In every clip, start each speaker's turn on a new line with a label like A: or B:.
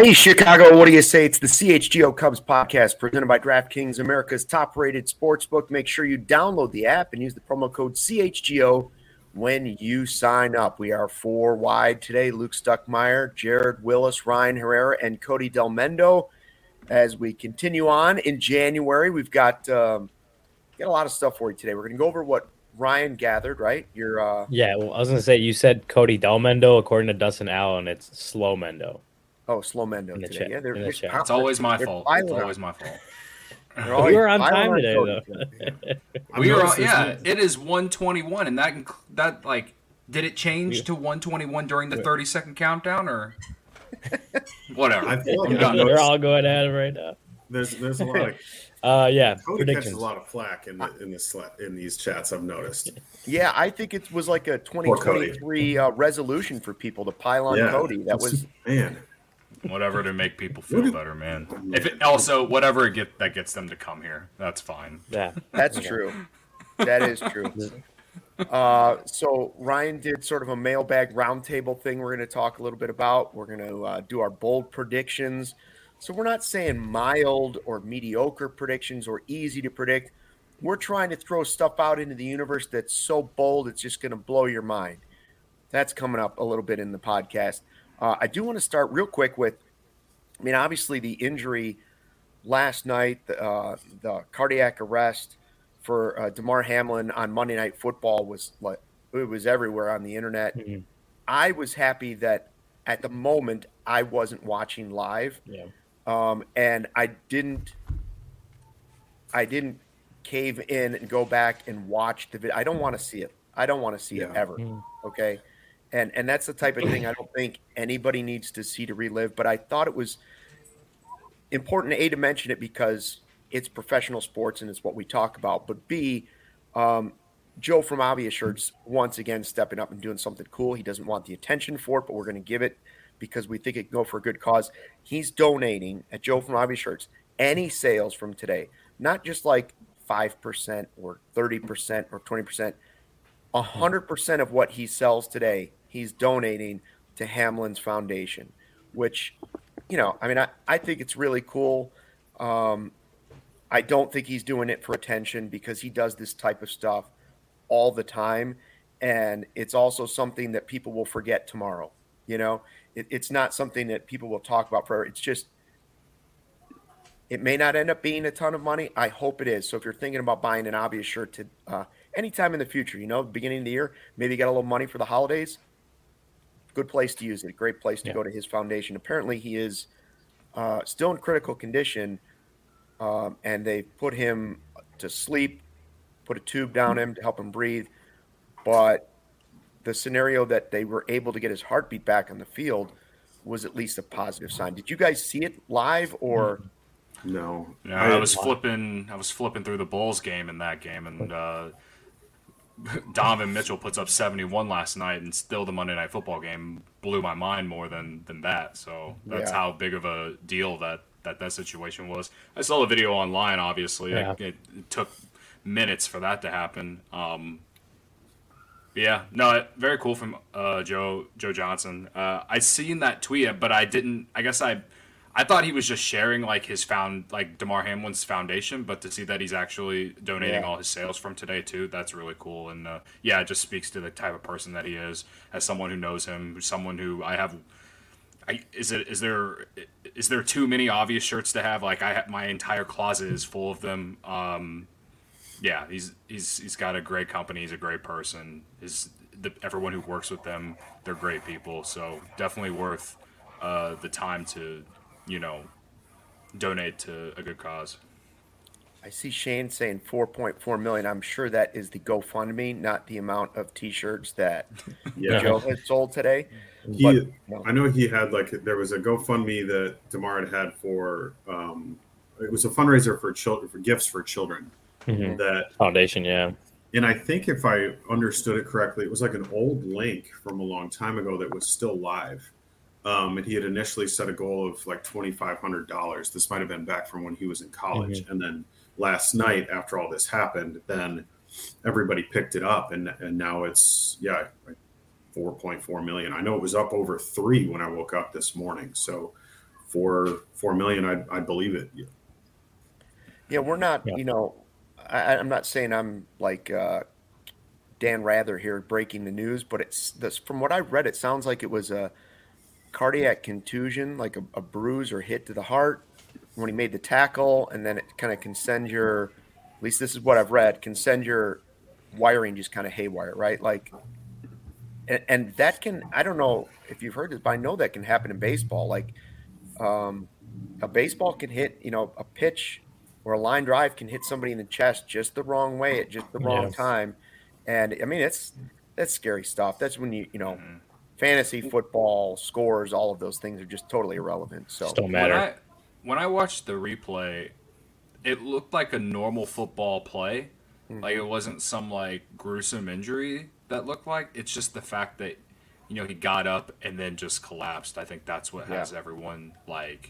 A: Hey, Chicago, what do you say? It's the CHGO Cubs podcast presented by DraftKings, America's top-rated sportsbook. Make sure you download the app and use the promo code CHGO when you sign up. We are four wide today. Luke Stuckmeyer, Jared Willis, Ryan Herrera, and Cody Delmendo. As we continue on in January, we've got a lot of stuff for you today. We're going to go over what Ryan gathered, right?
B: Yeah, well, I was going to say, you said Cody Delmendo. According to Dustin Allen, it's Slow Mendo.
A: Oh, Slow Mendo today.
C: Yeah, it's always my fault. It's always my fault.
B: We were on time today, though.
C: We were on, yeah, it is 1:21, and that did it change to 1:21 during the 30-second countdown, or whatever?
D: I feel like
B: we're all going at it right now.
D: There's a lot of Cody catches a lot of flack in these chats. I've noticed.
A: Yeah, I think it was like a 2023 resolution for people to pile on Cody. That was
D: man.
C: Whatever to make people feel better, man. Whatever that gets them to come here, that's fine.
B: Yeah,
A: that's true. That is true. So Ryan did sort of a mailbag roundtable thing. We're going to talk a little bit about. We're going to do our bold predictions. So we're not saying mild or mediocre predictions or easy to predict. We're trying to throw stuff out into the universe that's so bold it's just going to blow your mind. That's coming up a little bit in the podcast. I do want to start real quick with, obviously the injury last night, the cardiac arrest for Damar Hamlin on Monday Night Football was everywhere on the internet. Mm-hmm. I was happy that at the moment I wasn't watching live, and I didn't cave in and go back and watch the video. I don't want to see it. I don't want to see it ever. Mm-hmm. Okay. And that's the type of thing I don't think anybody needs to see to relive. But I thought it was important, A, to mention it because it's professional sports and it's what we talk about. But B, Joe from Obvious Shirts once again stepping up and doing something cool. He doesn't want the attention for it, but we're going to give it because we think it can go for a good cause. He's donating at Joe from Obvious Shirts any sales from today, not just like 5% or 30% or 20%. 100% of what he sells today, he's donating to Hamlin's Foundation, which, I think it's really cool. I don't think he's doing it for attention because he does this type of stuff all the time. And it's also something that people will forget tomorrow. It's not something that people will talk about forever. It's just, it may not end up being a ton of money. I hope it is. So if you're thinking about buying an Obvious shirt to anytime in the future, beginning of the year, maybe you got a little money for the holidays, good place to use it. A great place to go to his foundation. Apparently he is still in critical condition, and they put him to sleep, put a tube down him to help him breathe. But the scenario that they were able to get his heartbeat back on the field was at least a positive sign. Did you guys see it live or?
D: No.
C: I was flipping through the Bulls game in that game, and Donovan Mitchell puts up 71 last night, and still the Monday Night Football game blew my mind more than that. So that's how big of a deal that situation was. I saw the video online, obviously. Yeah. It took minutes for that to happen. Very cool from Joe Johnson. I seen that tweet, but I didn't. I guess I thought he was just sharing Damar Hamlin's foundation, but to see that he's actually donating all his sales from today too, that's really cool. And it just speaks to the type of person that he is, as someone who knows him, someone who is there too many Obvious shirts to have? My entire closet is full of them. He's got a great company. He's a great person. Everyone who works with them, they're great people. So definitely worth the time to donate to a good cause.
A: I see Shane saying 4.4 million. I'm sure that is the GoFundMe, not the amount of T-shirts that Joe has sold today.
D: I know he had there was a GoFundMe that Damar had for. It was a fundraiser for children, for gifts for children.
B: Mm-hmm.
D: That
B: foundation, yeah.
D: And I think if I understood it correctly, it was like an old link from a long time ago that was still live. And he had initially set a goal of $2,500. This might have been back from when he was in college. Mm-hmm. And then last night, after all this happened, then everybody picked it up, and now it's 4.4 million. I know it was up over 3 when I woke up this morning. So 4 million, I'd believe it.
A: Yeah, we're not. I'm not saying I'm like Dan Rather here breaking the news, but it's this. From what I read, it sounds like it was a cardiac contusion, like a bruise or hit to the heart when he made the tackle, and then it kind of can send your, at least this is what I've read, can send your wiring just kind of haywire, right? Like, and that can, I don't know if you've heard this, but I know that can happen in baseball. Like, a baseball can hit, a pitch or a line drive can hit somebody in the chest just the wrong way at just the wrong time. And I mean, that's scary stuff. That's when fantasy football scores, all of those things are just totally irrelevant. So
B: don't matter.
C: When I watched the replay, it looked like a normal football play. Mm-hmm. Like it wasn't some like gruesome injury that looked like. It's just the fact that he got up and then just collapsed. I think that's what has everyone like,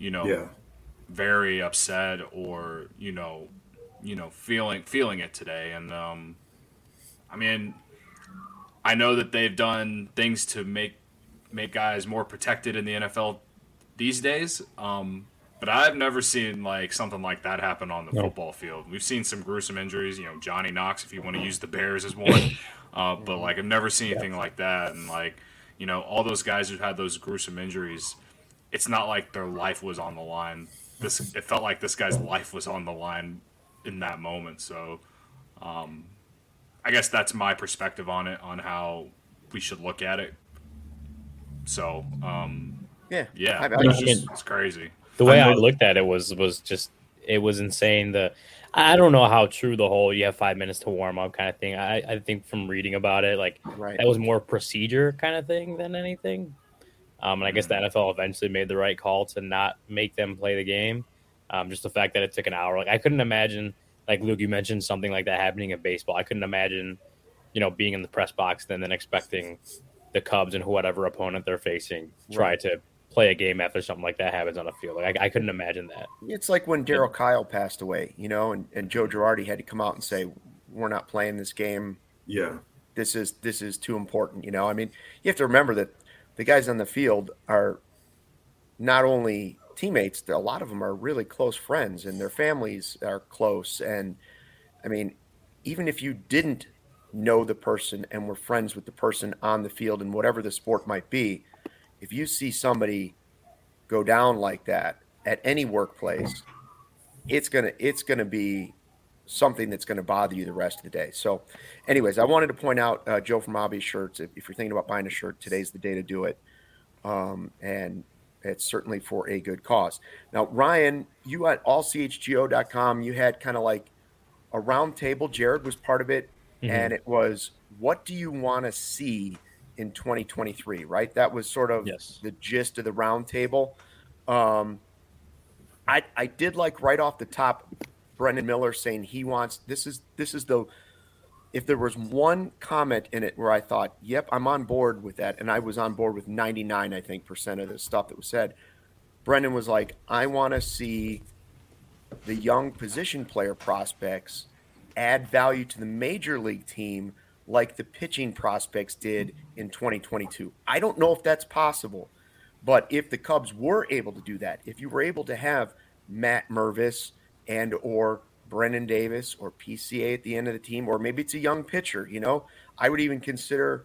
C: very upset or feeling it today. And I mean, I know that they've done things to make guys more protected in the NFL these days, but I've never seen like something like that happen on the football field. We've seen some gruesome injuries, Johnny Knox, if you want to use the Bears as one, but like I've never seen anything like that. And like all those guys who've had those gruesome injuries, it's not like their life was on the line. It felt like this guy's life was on the line in that moment. So, I guess that's my perspective on it, on how we should look at it. So, it's crazy.
B: The way I looked at it was just, it was insane. I don't know how true the whole you have 5 minutes to warm up kind of thing. I think from reading about it, like that was more procedure kind of thing than anything. And I guess the NFL eventually made the right call to not make them play the game. Just the fact that it took an hour. Like I couldn't imagine, like Luke, you mentioned something like that happening in baseball. I couldn't imagine, being in the press box and then expecting the Cubs and whatever opponent they're facing try to play a game after something like that happens on a field. Like I couldn't imagine that. It's
A: like when Darryl Kyle passed away, and Joe Girardi had to come out and say, "We're not playing this game.
D: Yeah,
A: this is too important." I mean, you have to remember that the guys on the field are not only teammates, a lot of them are really close friends, and their families are close. And I mean, even if you didn't know the person and were friends with the person on the field and whatever the sport might be, if you see somebody go down like that at any workplace, it's gonna be something that's going to bother you the rest of the day. So anyways, I wanted to point out, Joe from Hobby Shirts, if you're thinking about buying a shirt, today's the day to do it. And it's certainly for a good cause. Now, Ryan, you at allchgo.com, you had kind of like a round table. Jared was part of it. Mm-hmm. And it was, what do you want to see in 2023, right? That was sort of the gist of the round table. I did like right off the top, Brendan Miller saying he wants, this is if there was one comment in it where I thought, yep, I'm on board with that, and I was on board with 99, I think, % of the stuff that was said, Brendan was like, I want to see the young position player prospects add value to the major league team like the pitching prospects did in 2022. I don't know if that's possible, but if the Cubs were able to do that, if you were able to have Matt Mervis and or Brennan Davis or PCA at the end of the team, or maybe it's a young pitcher, I would consider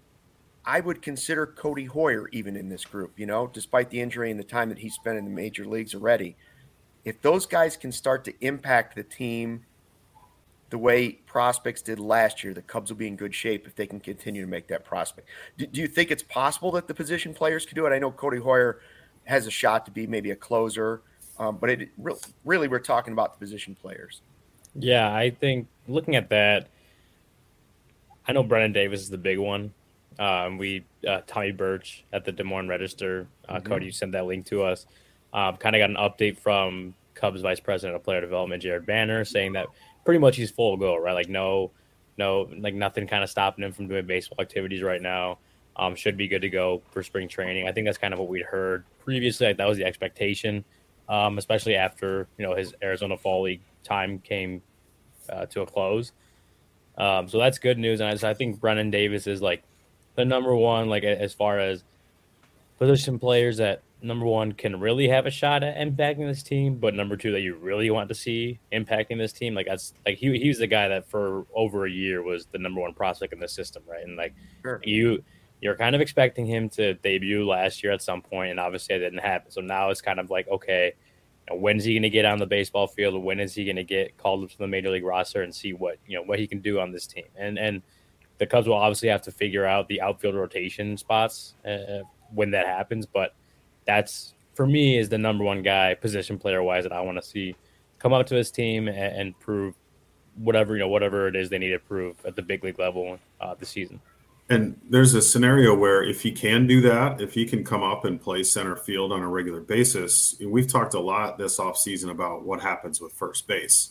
A: Cody Hoyer even in this group, despite the injury and the time that he spent in the major leagues already. If those guys can start to impact the team the way prospects did last year, the Cubs will be in good shape if they can continue to make that prospect. Do you think it's possible that the position players could do it? I know Cody Hoyer has a shot to be maybe a closer, but it really we're talking about the position players.
B: Yeah, I think looking at that, I know Brennan Davis is the big one. Tommy Birch at the Des Moines Register, Cody, you sent that link to us. Kind of got an update from Cubs Vice President of Player Development, Jared Banner, saying that pretty much he's full go, right? Like no, like nothing kind of stopping him from doing baseball activities right now. Should be good to go for spring training. I think that's kind of what we'd heard previously. Like that was the expectation, especially after his Arizona Fall League time came to a close. So that's good news, and I think Brennan Davis is like the number one, like as far as position players that number one, can really have a shot at impacting this team, but number two, that you really want to see impacting this team. Like that's like he was the guy that for over a year was the number one prospect in the system, right? And like
A: Sure.
B: you're kind of expecting him to debut last year at some point, and obviously it didn't happen. So now it's kind of like, okay, when is he going to get on the baseball field? When is he going to get called up to the major league roster and see what what he can do on this team? And the Cubs will obviously have to figure out the outfield rotation spots when that happens, but that's for me is the number one guy position player wise that I want to see come up to his team and prove whatever it is they need to prove at the big league level this season.
D: And there's a scenario where if he can do that, if he can come up and play center field on a regular basis, we've talked a lot this offseason about what happens with first base.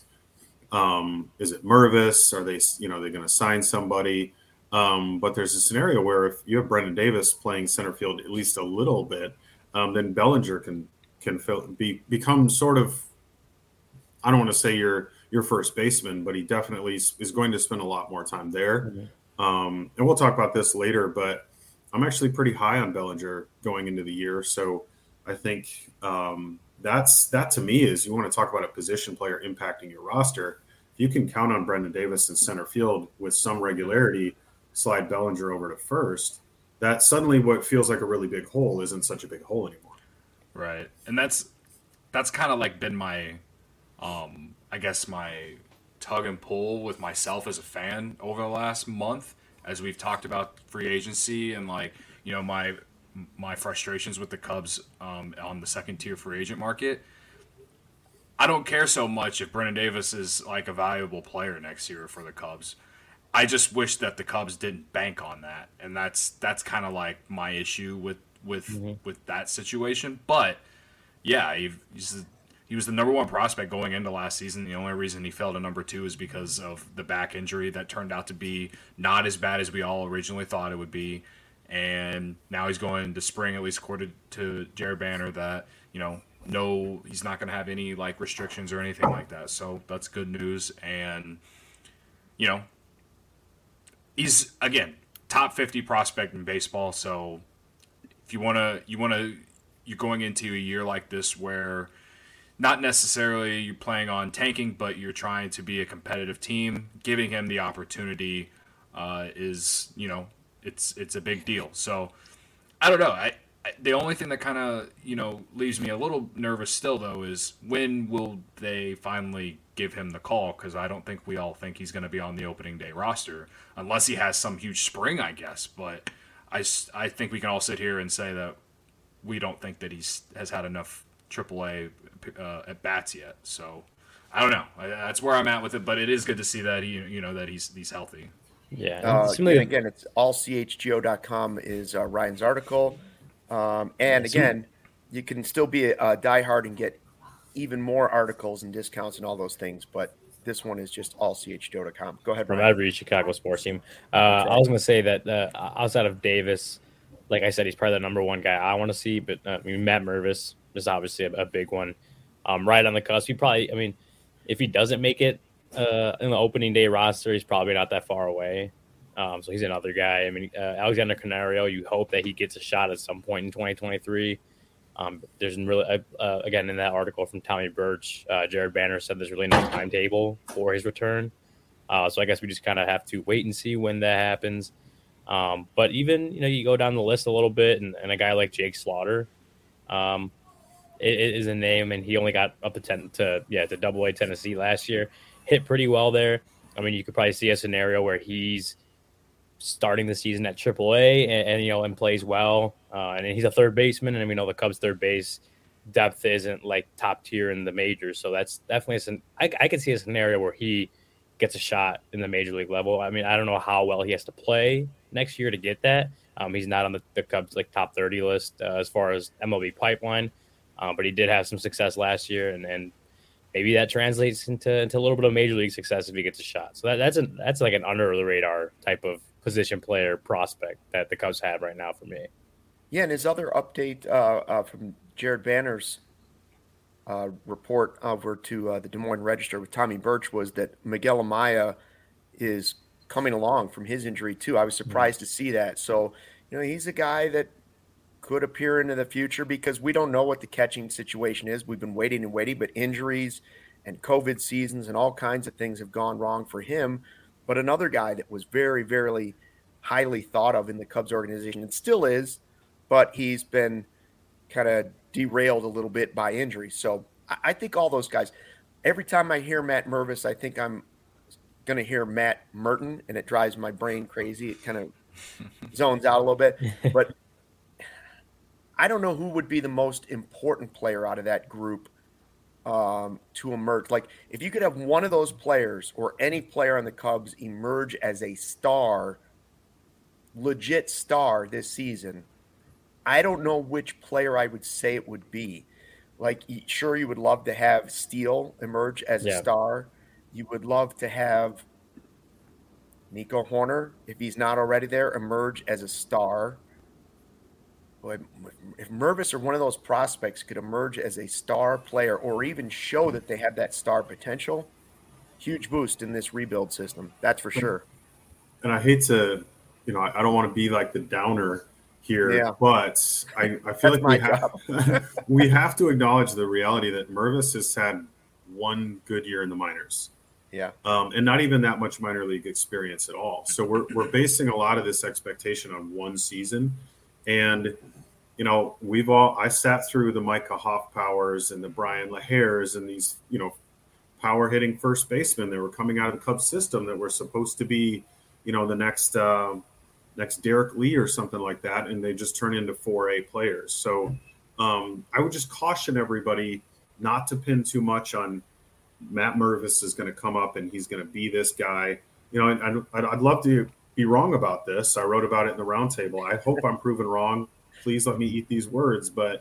D: Is it Mervis? Are they going to sign somebody? But there's a scenario where if you have Brendan Davis playing center field at least a little bit, then Bellinger can become sort of, I don't want to say your first baseman, but he definitely is going to spend a lot more time there.
B: Mm-hmm.
D: And we'll talk about this later, but I'm actually pretty high on Bellinger going into the year. So I think that to me is, you want to talk about a position player impacting your roster. If you can count on Brendan Davis in center field with some regularity, slide Bellinger over to first, that suddenly what feels like a really big hole isn't such a big hole anymore.
C: Right. And that's kind of like been my, I guess my tug and pull with myself as a fan over the last month, as we've talked about free agency and like, my frustrations with the Cubs on the second tier free agent market. I don't care so much if Brendan Davis is like a valuable player next year for the Cubs. I just wish that the Cubs didn't bank on that, and that's kind of like my issue with that situation. But yeah, he was the number one prospect going into last season. The only reason he fell to number two is because of the back injury that turned out to be not as bad as we all originally thought it would be. And now he's going to spring, at least according to Jared Banner, that no, he's not going to have any like restrictions or anything like that. So that's good news. And he's, again, top 50 prospect in baseball. So if you're going into a year like this where not necessarily you're playing on tanking, but you're trying to be a competitive team, giving him the opportunity is, it's a big deal. So I don't know. The only thing that kind of, leaves me a little nervous still, though, is when will they finally give him the call? Because I don't think we all think he's going to be on the opening day roster unless he has some huge spring, I guess. But I think we can all sit here and say that we don't think that has had enough AAA at bats yet. So I don't know. That's where I'm at with it. But it is good to see that that he's healthy.
B: Yeah.
A: And again, it's allchgo.com is Ryan's article. And again, you can still be a diehard and get even more articles and discounts and all those things. But this one is just allchgo.com. Go ahead,
B: From
A: Ryan.
B: every Chicago sports team. I was going to say that outside of Davis, like I said, he's probably the number one guy I want to see. But Matt Mervis is obviously a big one. Right on the cusp. If he doesn't make it in the opening day roster, he's probably not that far away. So he's another guy. Alexander Canario, you hope that he gets a shot at some point in 2023. There's really, again, in that article from Tommy Birch, Jared Banner said there's really no timetable for his return. So I guess we just kind of have to wait and see when that happens. But even, you go down the list a little bit, and a guy like Jake Slaughter is a name, and he only got up to Double-A Tennessee last year. Hit pretty well there. You could probably see a scenario where he's starting the season at AAA and plays well. And he's a third baseman, and we know the Cubs' third base depth isn't like top tier in the majors. So that's definitely I could see a scenario where he gets a shot in the major league level. I don't know how well he has to play next year to get that. He's not on the Cubs like top 30 list as far as MLB pipeline, but he did have some success last year, and maybe that translates into a little bit of major league success if he gets a shot. So that's like an under the radar type of position player prospect that the Cubs have right now for me.
A: Yeah, and his other update from Jared Banner's report over to the Des Moines Register with Tommy Birch was that Miguel Amaya is coming along from his injury too. I was surprised to see that. So, he's a guy that could appear into the future because we don't know what the catching situation is. We've been waiting and waiting, but injuries and COVID seasons and all kinds of things have gone wrong for him. But another guy that was very, very highly thought of in the Cubs organization and still is, but he's been kind of derailed a little bit by injury. So I think all those guys, every time I hear Matt Mervis, I think I'm going to hear Matt Merton, and it drives my brain crazy. It kind of zones out a little bit. But I don't know who would be the most important player out of that group to emerge. Like, if you could have one of those players or any player on the Cubs emerge as a star, legit star this season, I don't know which player I would say it would be. Like, sure, you would love to have Steele emerge as a star. You would love to have Nico Horner, if he's not already there, emerge as a star. But if Mervis or one of those prospects could emerge as a star player or even show that they have that star potential, huge boost in this rebuild system. That's for sure.
D: And I hate to, I don't want to be like the downer here, but I feel like we have to acknowledge the reality that Mervis has had one good year in the minors.
A: Yeah.
D: And not even that much minor league experience at all. So we're basing a lot of this expectation on one season. And, I sat through the Micah Hoffpowers and the Brian LaHares and these, power hitting first basemen that were coming out of the Cubs system that were supposed to be, the next Derek Lee or something like that. And they just turn into 4A players. So I would just caution everybody not to pin too much on Matt Mervis is going to come up and he's going to be this guy. I'd love to be wrong about this. I wrote about it in the roundtable. I hope I'm proven wrong. Please let me eat these words. But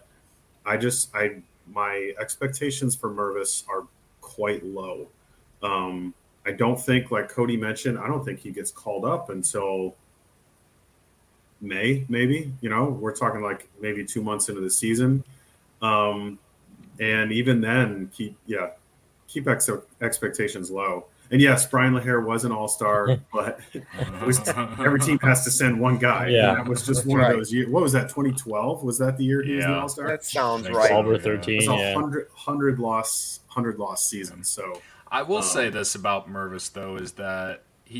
D: my expectations for Mervis are quite low. I don't think, like Cody mentioned, I don't think he gets called up until May, maybe. We're talking like maybe 2 months into the season. And even then, keep expectations low. And yes, Brian LaHare was an all-star, but every team has to send one guy.
B: Yeah.
D: And that was just one of those years. What was that, 2012? Was that the year he was an all-star?
A: That sounds right.
B: 12 or 13,
D: it was a 100 loss season. So
C: I will say this about Mervis, though, is that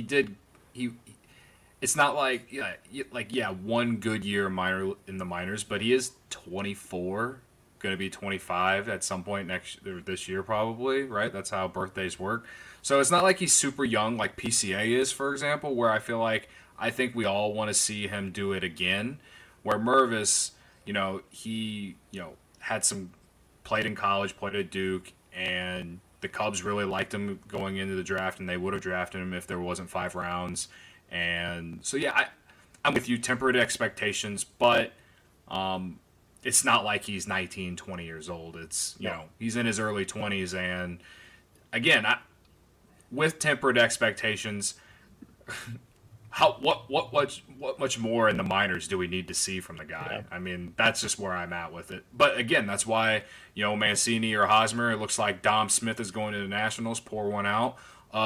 C: it's not like one good year in the minors, but he is 24, going to be 25 at some point this year probably, right? That's how birthdays work. So it's not like he's super young like PCA is, for example, where I think we all want to see him do it again. Where Mervis, he had some played in college, played at Duke, and the Cubs really liked him going into the draft, and they would have drafted him if there wasn't 5 rounds. And so, I'm with you, tempered expectations, but it's not like he's 19, 20 years old. It's, he's in his early 20s. And again, with tempered expectations, what much more in the minors do we need to see from the guy? Yeah. I mean, that's just where I'm at with it. But again, that's why, Mancini or Hosmer, it looks like Dom Smith is going to the Nationals, pour one out.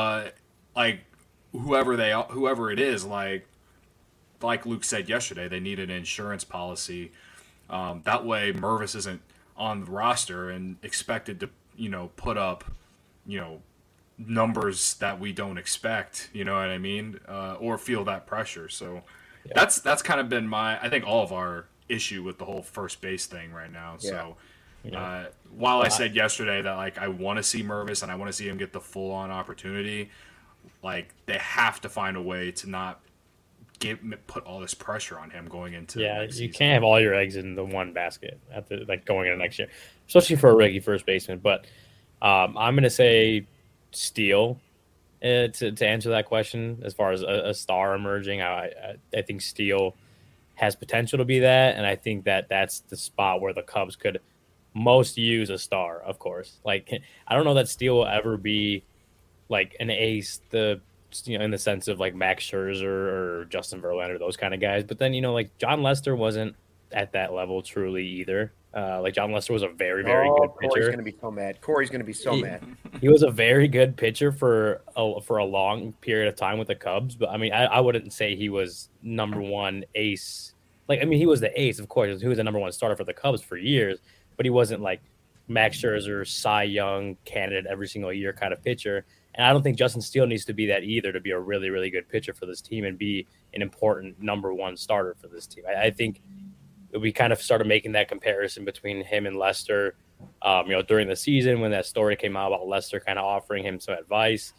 C: Whoever it is, like Luke said yesterday, they need an insurance policy. That way Mervis isn't on the roster and expected to, put up, numbers that we don't expect, you know what I mean? Or feel that pressure. So that's kind of been I think all of our issue with the whole first base thing right now. So while I said yesterday that I want to see Mervis and I want to see him get the full on opportunity, they have to find a way to not put all this pressure on him going into
B: you can't have all your eggs in the one basket going into next year, especially for a rookie first baseman. But I'm going to say Steele to answer that question as far as a star emerging. I think Steele has potential to be that, and I think that's the spot where the Cubs could most use a star, of course. I don't know that Steele will ever be an ace, in the sense of Max Scherzer or Justin Verlander, those kind of guys. But then, John Lester wasn't at that level truly either. John Lester was a very, very good pitcher.
A: Corey's going to be so mad. Corey's going to be so mad.
B: He was a very good pitcher for a long period of time with the Cubs. But, I mean, I wouldn't say he was number one ace, like, I mean, he was the ace, of course. He was the number one starter for the Cubs for years, but he wasn't like Max Scherzer, Cy Young candidate every single year kind of pitcher. And I don't think Justin Steele needs to be that either to be a really, really good pitcher for this team and be an important number one starter for this team. I think we kind of started making that comparison between him and Lester, during the season when that story came out about Lester kind of offering him some advice.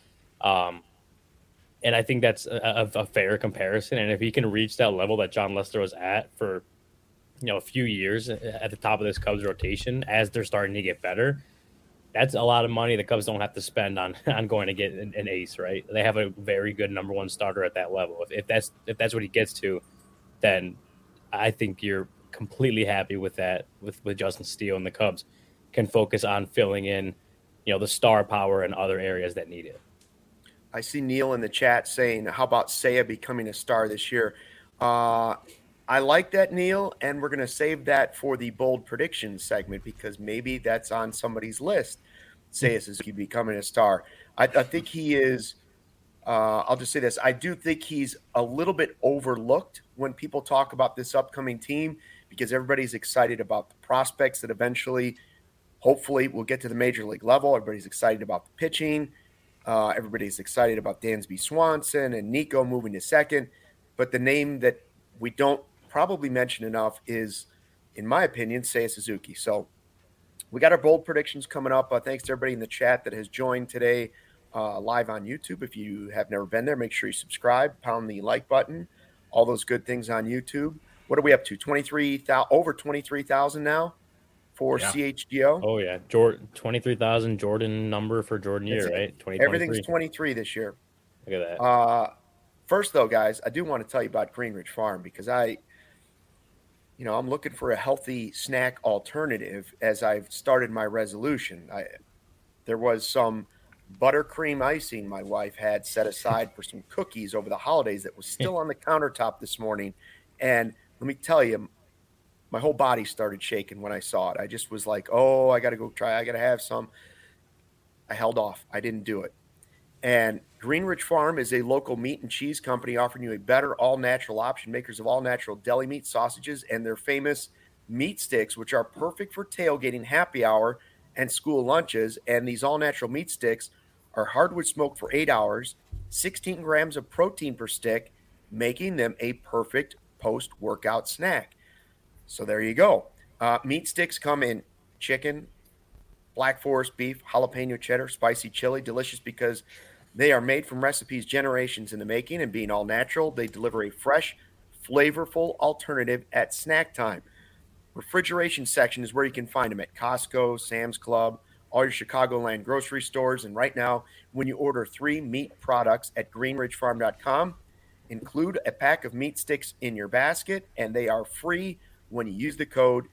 B: And I think that's a fair comparison. And if he can reach that level that John Lester was at for, a few years at the top of this Cubs rotation as they're starting to get better, that's a lot of money the Cubs don't have to spend on going to get an ace, right? They have a very good number one starter at that level. If that's what he gets to, then I think you're completely happy with that, with Justin Steele, and the Cubs can focus on filling in, the star power in other areas that need it.
A: I see Neil in the chat saying, how about Seiya becoming a star this year? I like that, Neil, and we're going to save that for the bold predictions segment because maybe that's on somebody's list. Seiya Suzuki becoming a star. I think he is. I'll just say this. I do think he's a little bit overlooked when people talk about this upcoming team because everybody's excited about the prospects that eventually, hopefully, will get to the major league level. Everybody's excited about the pitching. Everybody's excited about Dansby Swanson and Nico moving to second. But the name that we don't probably mention enough is, in my opinion, Seiya Suzuki. So we got our bold predictions coming up. Thanks to everybody in the chat that has joined today live on YouTube. If you have never been there, make sure you subscribe, pound the like button, all those good things on YouTube. What are we up to? 23,000, over 23,000 now for CHGO.
B: Oh yeah, 23,000 Jordan number for Jordan year, right?
A: Everything's 23 this year.
B: Look at that.
A: First though, guys, I do want to tell you about Greenridge Farm because I'm looking for a healthy snack alternative as I've started my resolution. There was some buttercream icing my wife had set aside for some cookies over the holidays that was still on the countertop this morning. And let me tell you, my whole body started shaking when I saw it. I just was like, oh, I got to go try. I got to have some. I held off. I didn't do it. And Greenridge Farm is a local meat and cheese company offering you a better all-natural option, makers of all-natural deli meat sausages and their famous meat sticks, which are perfect for tailgating, happy hour, and school lunches. And these all-natural meat sticks are hardwood smoked for 8 hours, 16 grams of protein per stick, making them a perfect post-workout snack. So there you go. Meat sticks come in chicken, Black Forest beef, jalapeno cheddar, spicy chili, delicious because they are made from recipes generations in the making, and being all natural, they deliver a fresh, flavorful alternative at snack time. Refrigeration section is where you can find them at Costco, Sam's Club, all your Chicagoland grocery stores. And right now, when you order 3 meat products at greenridgefarm.com, include a pack of meat sticks in your basket, and they are free when you use the code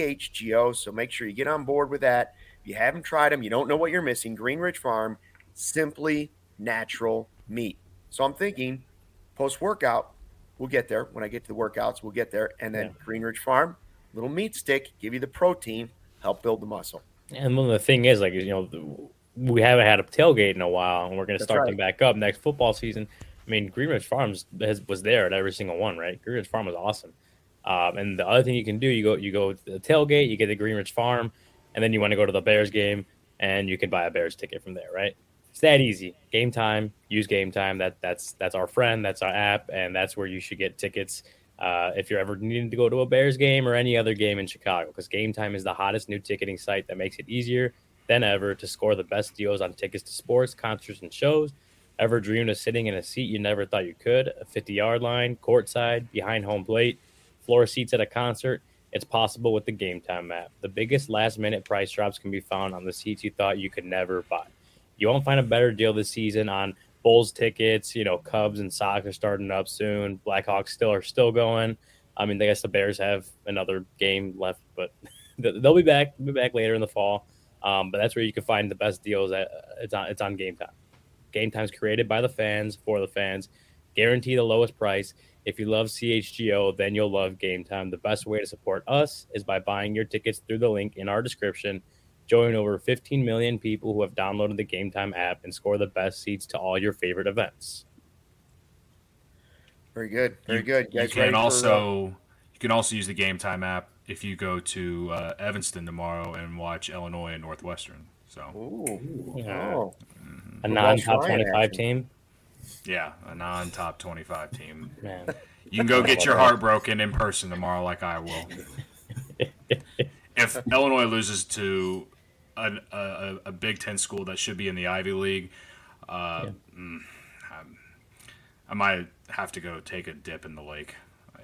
A: CHGO. So make sure you get on board with that. If you haven't tried them, you don't know what you're missing. Greenridge Farm, simply natural meat. So I'm thinking post-workout, we'll get there. When I get to the workouts, we'll get there. And then Greenridge Farm, little meat stick, give you the protein, help build the muscle.
B: And the thing is, like, we haven't had a tailgate in a while, and we're going to start them back up next football season. I mean, Greenridge Farms was there at every single one, right? Greenridge Farm was awesome. And the other thing you can do, you go to the tailgate, you get the Greenridge Farm, and then you want to go to the Bears game, and you can buy a Bears ticket from there, right? It's that easy. Game Time, use Game Time. That's our friend. That's our app, and that's where you should get tickets if you're ever needing to go to a Bears game or any other game in Chicago, because Game Time is the hottest new ticketing site that makes it easier than ever to score the best deals on tickets to sports, concerts, and shows. Ever dreamed of sitting in a seat you never thought you could? A 50-yard line, courtside, behind home plate, floor seats at a concert? It's possible with the Game Time app. The biggest last-minute price drops can be found on the seats you thought you could never buy. You won't find a better deal this season on Bulls tickets. Cubs and Sox are starting up soon. Blackhawks are still going. I mean, I guess the Bears have another game left, but they'll be back. They'll be back later in the fall. But that's where you can find the best deals. It's on Game Time. Game Time's created by the fans for the fans. Guarantee the lowest price. If you love CHGO, then you'll love Game Time. The best way to support us is by buying your tickets through the link in our description. Join over 15 million people who have downloaded the Game Time app and score the best seats to all your favorite events.
A: Very good. Very good.
C: You can can also use the Game Time app if you go to Evanston tomorrow and watch Illinois and Northwestern. So,
B: a non-top 25 team.
C: Yeah, a non-top 25 team.
B: Man,
C: you can go get your heart broken in person tomorrow, like I will. If Illinois loses to a Big Ten school that should be in the Ivy League, I might have to go take a dip in the lake.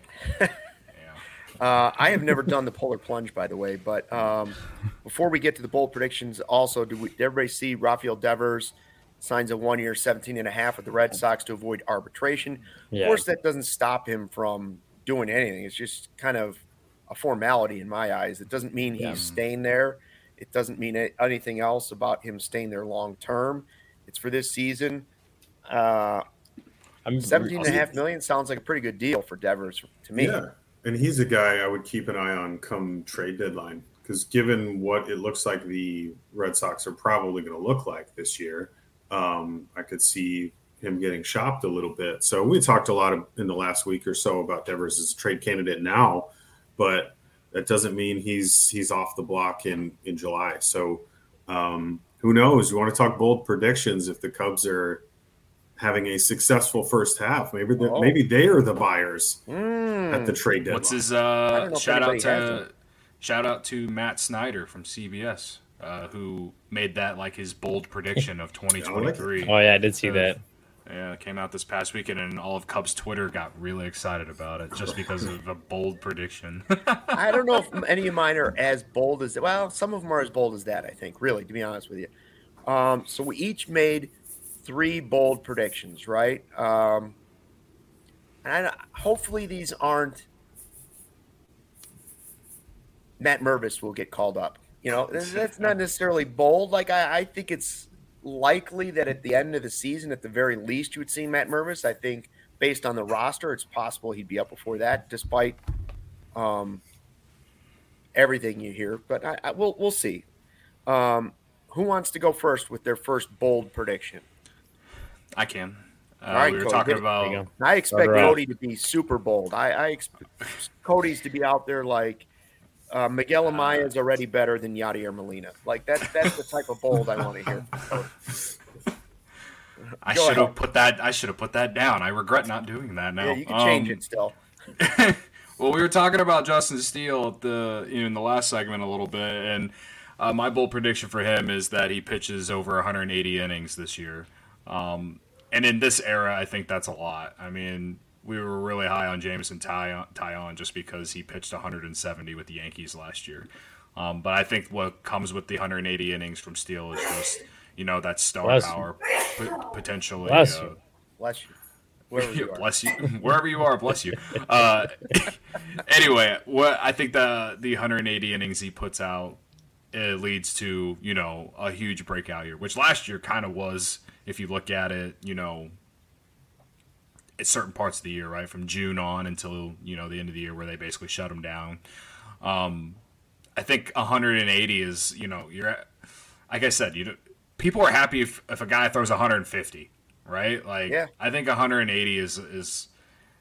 A: I have never done the polar plunge, by the way, but before we get to the bold predictions, also, did everybody see Rafael Devers signs a 1 year, 17.5 with the Red Sox to avoid arbitration?
B: Yeah.
A: Of course, that doesn't stop him from doing anything. It's just kind of a formality in my eyes. It doesn't mean he's staying there. It doesn't mean anything else about him staying there long term. It's for this season. $17.5 million sounds like a pretty good deal for Devers to me.
D: Yeah, and he's a guy I would keep an eye on come trade deadline, because given what it looks like the Red Sox are probably going to look like this year, I could see him getting shopped a little bit. So we talked a lot in the last week or so about Devers as a trade candidate now, but that doesn't mean he's off the block in July. So who knows? You want to talk bold predictions? If the Cubs are having a successful first half, maybe they are the buyers at the trade deadline.
C: What's his shout out to Matt Snyder from CBS, who made that like his bold prediction of 2023.
B: Oh yeah, I did see that.
C: Yeah, it came out this past weekend, and all of Cubs Twitter got really excited about it just because of a bold prediction.
A: I don't know if any of mine are as bold as – well, some of them are as bold as that, I think, really, to be honest with you. So we each made 3 bold predictions, right? And hopefully these aren't – Matt Mervis will get called up. You know, that's not necessarily bold. Like, I think it's – likely that at the end of the season, at the very least, you would see Matt Mervis. I think based on the roster, it's possible he'd be up before that, despite everything you hear. But we'll see. Who wants to go first with their first bold prediction?
C: I can.
A: All right,
C: we were
A: Cody,
C: talking about.
A: I expect Cody to be super bold. I expect Cody's to be out there like. Miguel Amaya is already better than Yadier Molina. Like that's the type of bold I want to hear.
C: I should have put that down. I regret not doing that now.
A: Yeah, you can change it still.
C: Well, we were talking about Justin Steele in the last segment a little bit, and my bold prediction for him is that he pitches over 180 innings this year. And in this era, I think that's a lot. I mean, we were really high on Jameson Taillon just because he pitched 170 with the Yankees last year. But I think what comes with the 180 innings from Steele is just, that star power potentially.
A: Bless you. Wherever you are.
C: Bless you. Wherever you are, bless you. Anyway, what I think the 180 innings he puts out, it leads to, a huge breakout year, which last year kind of was, if you look at it, at certain parts of the year, right, from June on until the end of the year, where they basically shut them down. I think 180 is you're like I said, people are happy if a guy throws 150, right? Like I think 180 is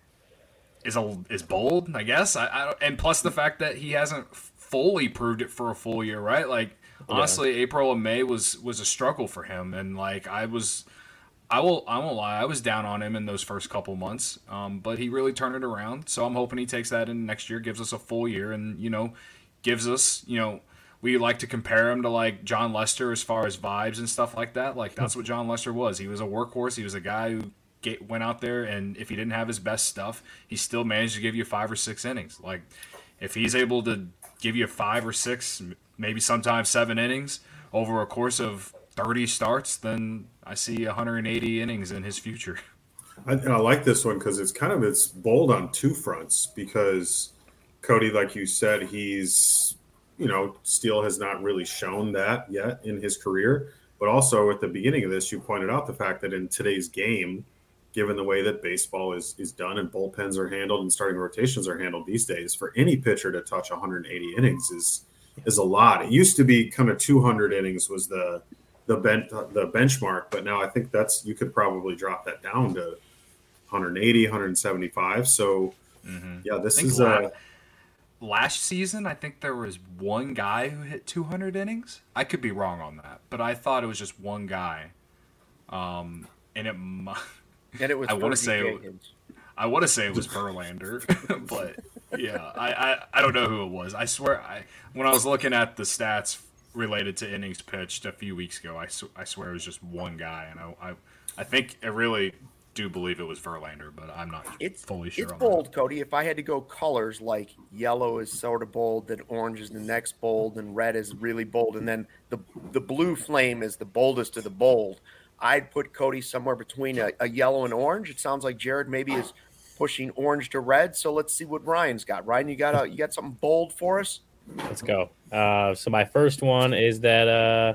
C: bold, I guess. I and plus the fact that he hasn't fully proved it for a full year, right? Like honestly, April and May was a struggle for him, and like I won't lie, I was down on him in those first couple months, but he really turned it around. So I'm hoping he takes that in next year, gives us a full year, and gives us we like to compare him to like John Lester as far as vibes and stuff like that. Like that's what John Lester was. He was a workhorse. He was a guy who went out there, and if he didn't have his best stuff, he still managed to give you 5 or 6 innings. Like if he's able to give you 5 or 6, maybe sometimes 7 innings over a course of 30 starts, then I see 180 innings in his future.
D: I like this one because it's bold on 2 fronts, because Cody, like you said, he's, Steele has not really shown that yet in his career. But also at the beginning of this, you pointed out the fact that in today's game, given the way that baseball is done and bullpens are handled and starting rotations are handled these days, for any pitcher to touch 180 innings is a lot. It used to be kind of 200 innings was the benchmark, but now I think you could probably drop that down to 180, 175. So, yeah, this is
C: last season, I think there was one guy who hit 200 innings. I could be wrong on that, but I thought it was just one guy. And it
A: and it was
C: I want to
A: Fergie
C: say
A: Jenkins.
C: I want to say it was Verlander, but yeah, I don't know who it was. I swear, when I was looking at the stats related to innings pitched a few weeks ago, I swear it was just one guy, and I think I really do believe it was Verlander, but I'm not fully sure.
A: It's
C: on
A: bold,
C: that.
A: Cody. If I had to go colors, like yellow is sort of bold, then orange is the next bold, and red is really bold, and then the blue flame is the boldest of the bold. I'd put Cody somewhere between a yellow and orange. It sounds like Jared maybe is pushing orange to red. So let's see what Ryan's got. Ryan, you got something bold for us?
B: Let's go. So my first one is that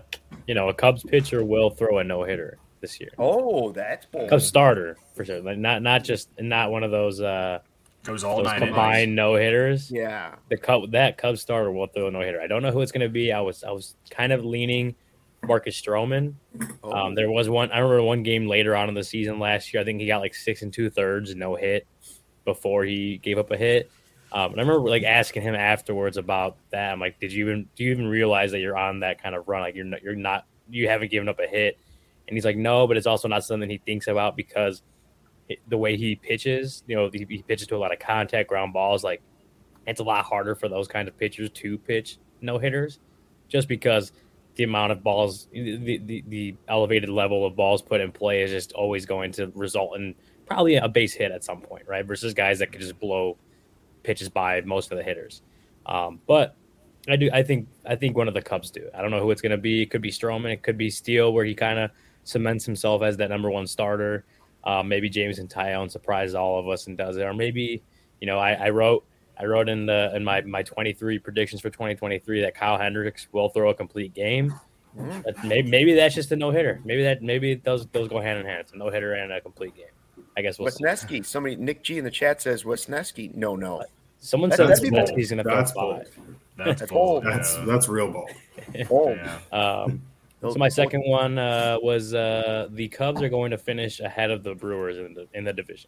B: a Cubs pitcher will throw a no hitter this year.
A: Oh, that's bold.
B: Cubs starter for sure. Like not one of those
C: goes all
B: those
C: nine
B: combined no hitters.
A: Yeah,
B: that Cubs starter will throw a no hitter. I don't know who it's going to be. I was kind of leaning Marcus Stroman. There was one. I remember one game later on in the season last year. I think he got like 6 2/3 no hit before he gave up a hit. And I remember like asking him afterwards about that. I'm like, do you even realize that you're on that kind of run? Like you haven't given up a hit. And he's like, no, but it's also not something he thinks about because the way he pitches, he pitches to a lot of contact ground balls. Like it's a lot harder for those kind of pitchers to pitch no hitters, just because the amount of balls, the elevated level of balls put in play is just always going to result in probably a base hit at some point, right? Versus guys that could just blow pitches by most of the hitters. But I think one of the Cubs do. I don't know who it's going to be. It could be Stroman. It could be Steele, where he kind of cements himself as that number one starter. Maybe Jameson Taillon surprises all of us and does it. Or maybe, I wrote in my 23 predictions for 2023 that Kyle Hendricks will throw a complete game. But maybe that's just a no hitter. Maybe those go hand in hand. It's a no hitter and a complete game. I guess we'll
A: Wesneski. Somebody, Nick G in the chat says Wesneski. No.
B: Someone said Wesneski's going to throw
D: bold.
B: 5.
C: That's bold.
D: That's real bold.
A: Bold.
C: Yeah.
B: So my second one was the Cubs are going to finish ahead of the Brewers in the division.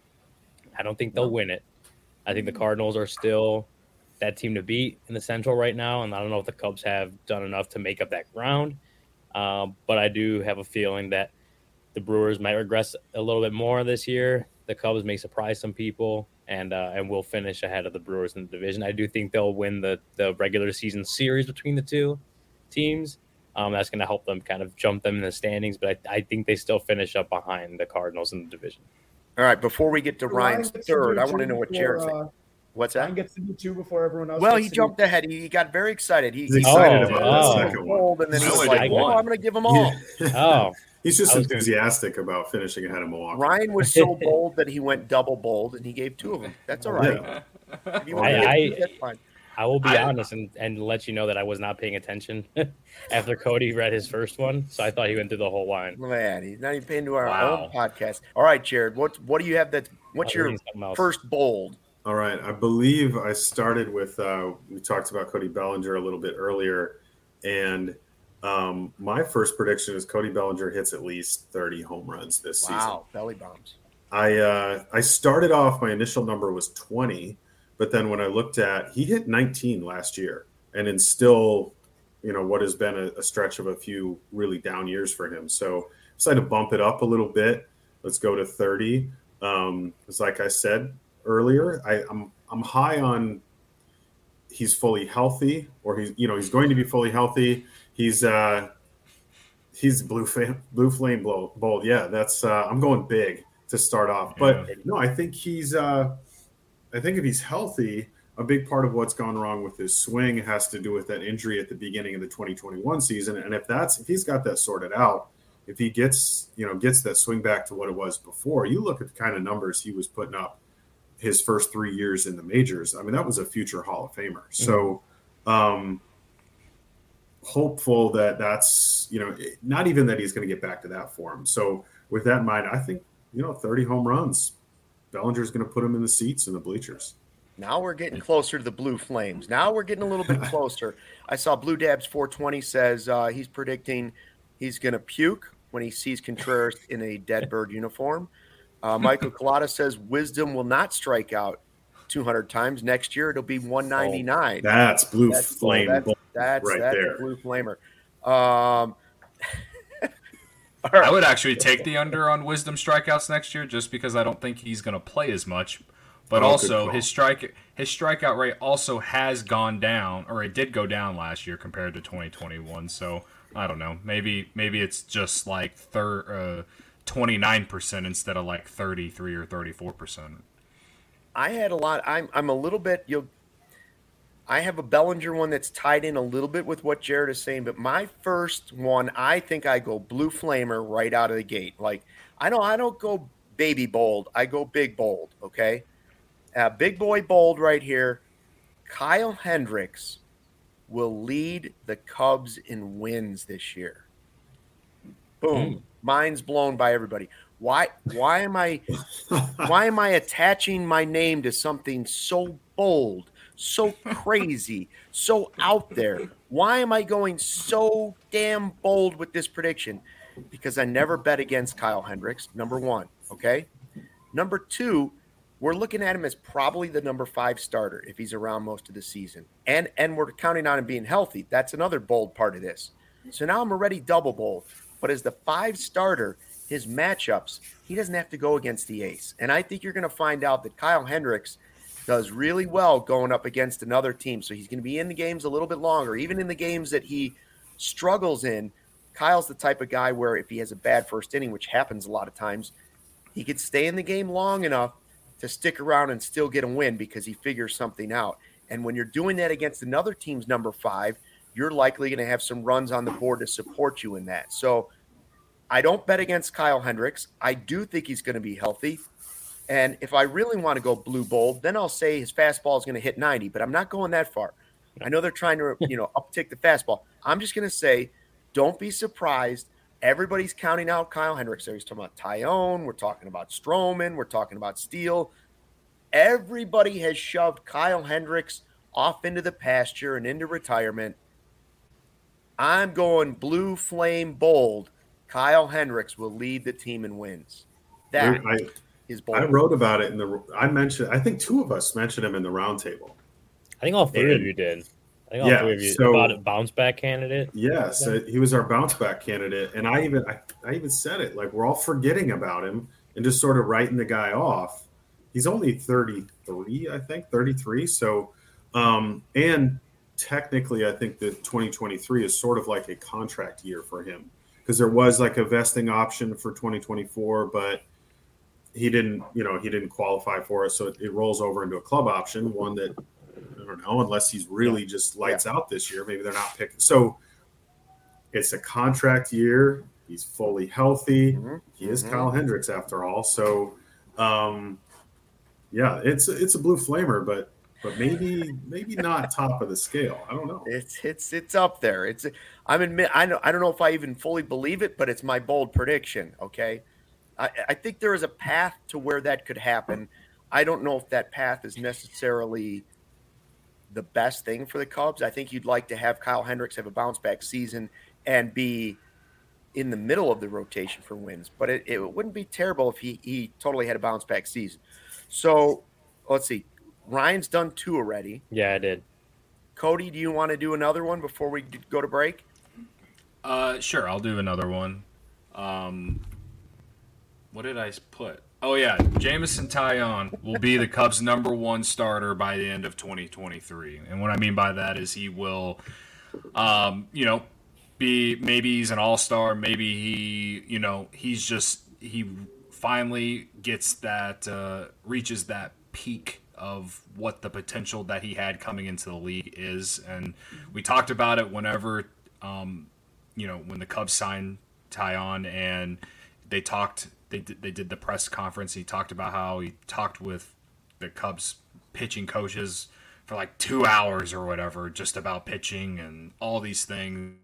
B: I don't think they'll win it. I think the Cardinals are still that team to beat in the Central right now, and I don't know if the Cubs have done enough to make up that ground. But I do have a feeling that the Brewers might regress a little bit more this year. The Cubs may surprise some people, and will finish ahead of the Brewers in the division. I do think they'll win the regular season series between the two teams. That's going to help them kind of jump them in the standings, but I think they still finish up behind the Cardinals in the division.
A: All right, before we get to Ryan's third, I want to know what Jared thinks. What's that?
E: Ryan gets to do 2 before everyone else.
A: Well, he jumped ahead. He got very excited.
D: He's excited about that second
A: one. And then he was like, I'm going to give them all.
D: He's just enthusiastic about finishing ahead of Milwaukee.
A: Ryan was so bold that he went double bold, and he gave 2 of them. That's all right.
B: That's fine. I will be honest and let you know that I was not paying attention after Cody read his first one, so I thought he went through the whole line.
A: Man, he's not even paying to our own podcast. All right, Jared, what do you have what's your first bold?
D: All right, I believe I started with we talked about Cody Bellinger a little bit earlier, and my first prediction is Cody Bellinger hits at least 30 home runs this season.
A: Wow, belly bombs.
D: I started off, my initial number was 20. But then when I looked at, he hit 19 last year, and in still, what has been a stretch of a few really down years for him. So I decided to bump it up a little bit. Let's go to 30. It's like I said earlier, I'm high on he's fully healthy, or he's going to be fully healthy. He's blue flame bold. Yeah, that's I'm going big to start off. But no, I think I think if he's healthy, a big part of what's gone wrong with his swing has to do with that injury at the beginning of the 2021 season. And if he's got that sorted out, if he gets that swing back to what it was before, you look at the kind of numbers he was putting up his first 3 years in the majors. I mean, that was a future Hall of Famer. So hopeful that's, not even that he's going to get back to that form. So with that in mind, I think, 30 home runs. Bellinger's going to put him in the seats in the bleachers.
A: Now we're getting closer to the Blue Flames. Now we're getting a little bit closer. I saw Blue Dabs 420 says he's predicting he's going to puke when he sees Contreras in a dead bird uniform. Michael Collada says Wisdom will not strike out 200 times. Next year, it'll be 199.
D: That's blue flame.
A: That's
D: there.
A: A blue flamer.
C: I would actually take the under on Wisdom strikeouts next year just because I don't think he's going to play as much. But also, his strikeout rate also has gone down, or it did go down last year compared to 2021. So I don't know. Maybe it's just like 29% instead of like 33 or 34%.
A: I had a lot. I'm a little bit. I have a Bellinger one that's tied in a little bit with what Jared is saying, but my first one, I think I go blue flamer right out of the gate. Like I don't go baby bold. I go big bold. Okay, big boy bold right here. Kyle Hendricks will lead the Cubs in wins this year. Boom. Mind's blown by everybody. Why am I attaching my name to something so bold, so crazy, so out there? Why am I going so damn bold with this prediction? Because I never bet against Kyle Hendricks, number one, okay? Number two, we're looking at him as probably the number 5 starter if he's around most of the season. And we're counting on him being healthy. That's another bold part of this. So now I'm already double bold. But as the 5 starter, his matchups, he doesn't have to go against the ace. And I think you're going to find out that Kyle Hendricks does really well going up against another team. So he's going to be in the games a little bit longer. Even in the games that he struggles in, Kyle's the type of guy where if he has a bad first inning, which happens a lot of times, he could stay in the game long enough to stick around and still get a win because he figures something out. And when you're doing that against another team's number 5, you're likely going to have some runs on the board to support you in that. So I don't bet against Kyle Hendricks. I do think he's going to be healthy. And if I really want to go blue bold, then I'll say his fastball is going to hit 90, but I'm not going that far. I know they're trying to, uptick the fastball. I'm just going to say, don't be surprised. Everybody's counting out Kyle Hendricks. He's talking about Tyone. We're talking about Stroman. We're talking about Steele. Everybody has shoved Kyle Hendricks off into the pasture and into retirement. I'm going blue flame bold. Kyle Hendricks will lead the team in wins. That is bold.
D: I wrote about it I think 2 of us mentioned him in the roundtable.
B: I think all 3 of you did. I think all 3 of you about a bounce back candidate.
D: Yes, he was our bounce back candidate. And I even said it, like we're all forgetting about him and just sort of writing the guy off. He's only 33, I think, 33. So, and technically I think that 2023 is sort of like a contract year for him. Because there was like a vesting option for 2024, but he didn't qualify for it. So it rolls over into a club option, one that, I don't know, unless he's really just lights out this year. Maybe they're not picking. So it's a contract year. He's fully healthy. Mm-hmm. He is Kyle Hendricks after all. So, it's a blue flamer, but maybe not top of the scale. I don't know.
A: It's up there. I don't know if I even fully believe it, but it's my bold prediction. Okay, I think there is a path to where that could happen. I don't know if that path is necessarily the best thing for the Cubs. I think you'd like to have Kyle Hendricks have a bounce back season and be in the middle of the rotation for wins. But it wouldn't be terrible if he totally had a bounce back season. So let's see. Ryan's done 2 already.
B: Yeah, I did.
A: Cody, do you want to do another one before we go to break?
C: Sure, I'll do another one. What did I put? Oh, yeah, Jameson Taillon will be the Cubs' number 1 starter by the end of 2023. And what I mean by that is he will, maybe he's an all-star. Maybe he finally gets that, reaches that peak of what the potential that he had coming into the league is. And we talked about it whenever, when the Cubs signed Taillon and they did the press conference. He talked about how he talked with the Cubs pitching coaches for like 2 hours or whatever, just about pitching and all these things.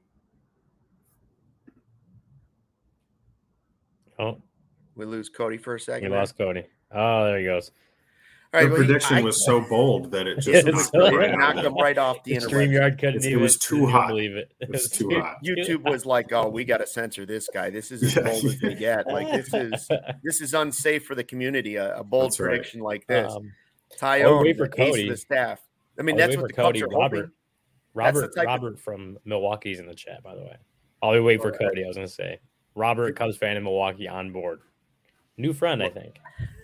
B: Oh,
A: we lose Cody for a second.
B: We lost Cody. Oh, there he goes.
A: All right,
D: the prediction was so bold that it just
A: knocked him right off the internet.
B: StreamYard couldn't
D: it was too hot.
B: Believe it.
D: It was too hot.
A: YouTube was like, "Oh, we got to censor this guy. This is as bold as we get. Like this is unsafe for the community. A bold prediction like this." Tyone,
B: wait for
A: the ace
B: Cody.
A: of the staff. I mean, that's what the Cubs are hoping.
B: Robert from Milwaukee's in the chat, by the way. I'll be waiting for Cody. I was going to say Robert, Cubs fan in Milwaukee, on board. New friend, I think.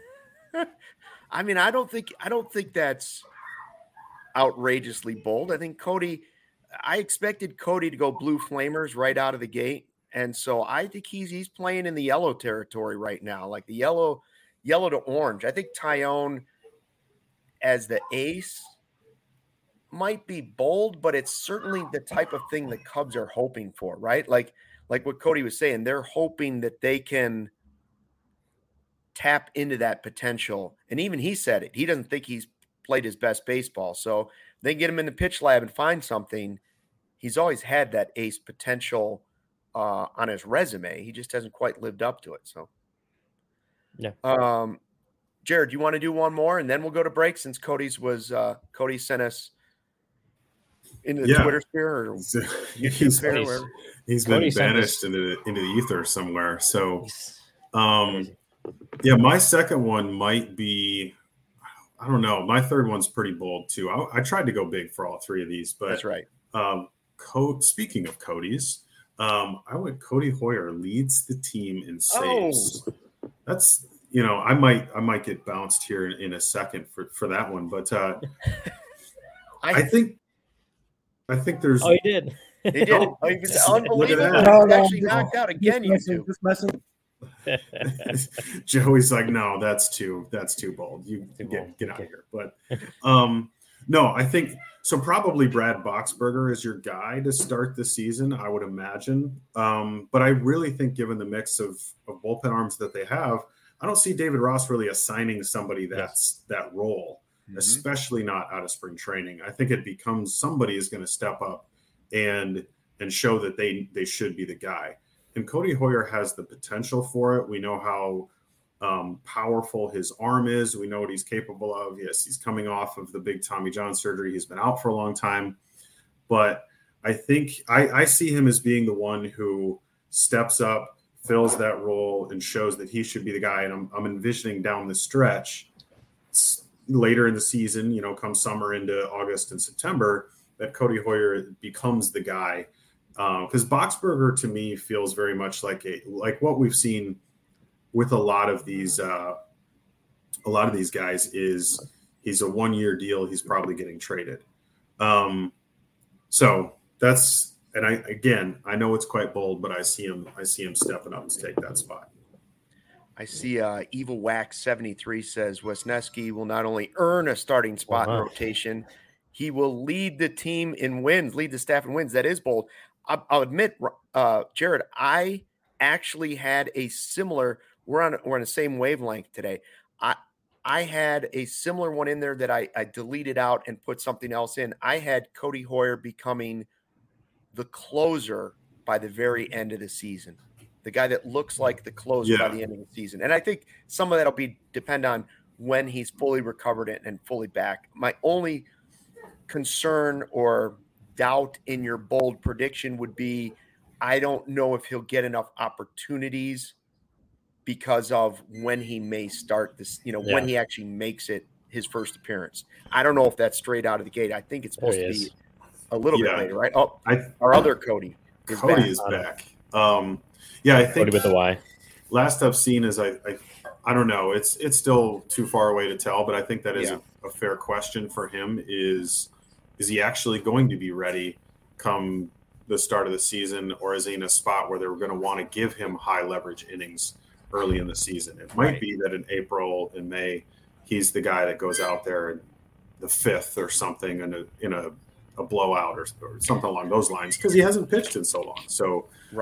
A: I mean, I don't think that's outrageously bold. I think I expected Cody to go Blue Flamers right out of the gate, and so I think he's playing in the yellow territory right now, like the yellow to orange. I think Tyone as the ace might be bold, but it's certainly the type of thing the Cubs are hoping for, right? Like what Cody was saying, they're hoping that they can tap into that potential. And even he said it. He doesn't think he's played his best baseball. So they get him in the pitch lab and find something. He's always had that ace potential on his resume. He just hasn't quite lived up to it. So,
B: yeah.
A: Jared, you want to do one more, and then we'll go to break since Cody sent us into the Twitter sphere or YouTube sphere.
D: He's been banished into the ether somewhere. So, my second one might be, I don't know. My third one's pretty bold too. I tried to go big for all three of these, but
A: that's right.
D: Speaking of Cody's, I went Cody Hoyer leads the team in saves. Oh. That's, I might get bounced here in a second for that one, but I think there's.
B: Oh, he did.
A: He did. Oh, he was unbelievable. He's actually knocked out again.
D: Just messing. Joey's like, no, that's too bold. You get out of here. But no, I think so. Probably Brad Boxberger is your guy to start the season, I would imagine. But I really think, given the mix of bullpen arms that they have, I don't see David Ross really assigning somebody that's that role, especially not out of spring training. I think it becomes somebody is going to step up and show that they should be the guy. And Cody Hoyer has the potential for it. We know how powerful his arm is. We know what he's capable of. Yes, he's coming off of the big Tommy John surgery. He's been out for a long time. But I think I see him as being the one who steps up, fills that role, and shows that he should be the guy. And I'm envisioning down the stretch later in the season, come summer into August and September, that Cody Hoyer becomes the guy. Because Boxberger to me feels very much like what we've seen with a lot of these guys is he's a 1-year deal. He's probably getting traded. So that's, and I know it's quite bold, but I see him stepping up to take that spot.
A: I see Evil Wax 73 says Wesneski will not only earn a starting spot in rotation, he will lead the team in wins, lead the staff in wins. That is bold. I'll admit, Jared, I actually had a similar. We're on the same wavelength today. I had a similar one in there that I deleted out and put something else in. I had Cody Hoyer becoming the closer by the very end of the season, the guy that looks like the closer by the end of the season. And I think some of that will depend on when he's fully recovered and fully back. My only concern or doubt in your bold prediction would be, I don't know if he'll get enough opportunities because of when he may start this, when he actually makes it his first appearance. I don't know if that's straight out of the gate. I think it's supposed to be a little bit later, right? Oh, our other Cody
D: is back. I think
B: Cody with the Y.
D: Last I've seen is I don't know. It's still too far away to tell, but I think that is a fair question for him. Is he actually going to be ready come the start of the season, or is he in a spot where they're going to want to give him high leverage innings early in the season? It might be that in April and May, he's the guy that goes out there in the 5th or something in a blowout or something along those lines, because he hasn't pitched in so long. So,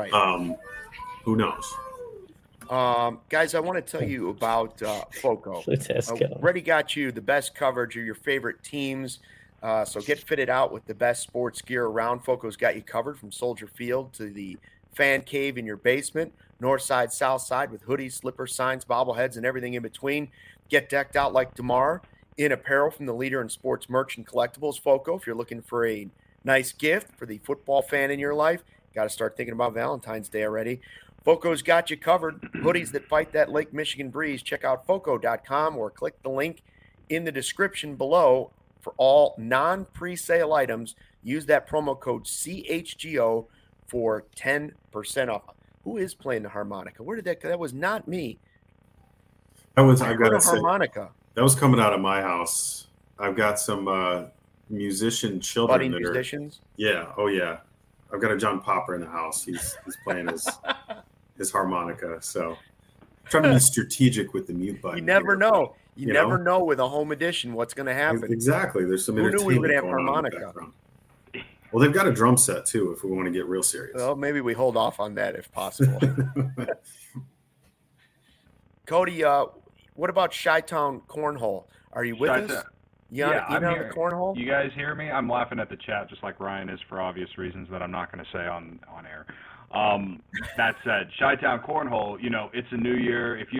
D: who knows?
A: Guys, I want to tell you about FOCO. Already got you the best coverage of your favorite teams. So get fitted out with the best sports gear around. FOCO's got you covered from Soldier Field to the fan cave in your basement, north side, south side, with hoodies, slippers, signs, bobbleheads, and everything in between. Get decked out like DeMar in apparel from the leader in sports merch and collectibles, FOCO. If you're looking for a nice gift for the football fan in your life, got to start thinking about Valentine's Day already. FOCO's got you covered. Hoodies that fight that Lake Michigan breeze. Check out FOCO.com or click the link in the description below for all non-presale items, use that promo code CHGO for 10% off. Who is playing the harmonica? Where did that was not me.
D: I gotta say,
A: harmonica.
D: That was coming out of my house. I've got some musician children.
A: Budding musicians?
D: Yeah. Oh, yeah. I've got a John Popper in the house. He's playing his harmonica. So I'm trying to be strategic with the mute button.
A: You never know. You never know with a home edition what's going to happen.
D: Exactly. There's some entertainment.
A: Who knew we would have
D: going
A: harmonica?
D: On in the background. Well, they've got a drum set too. If we want to get real serious.
A: Well, maybe we hold off on that if possible. Cody, what about Chi-Town Cornhole? Are you with us? You on the cornhole?
E: You guys hear me? I'm laughing at the chat just like Ryan is for obvious reasons that I'm not going to say on air. That said, Chi-Town Cornhole, it's a new year. If you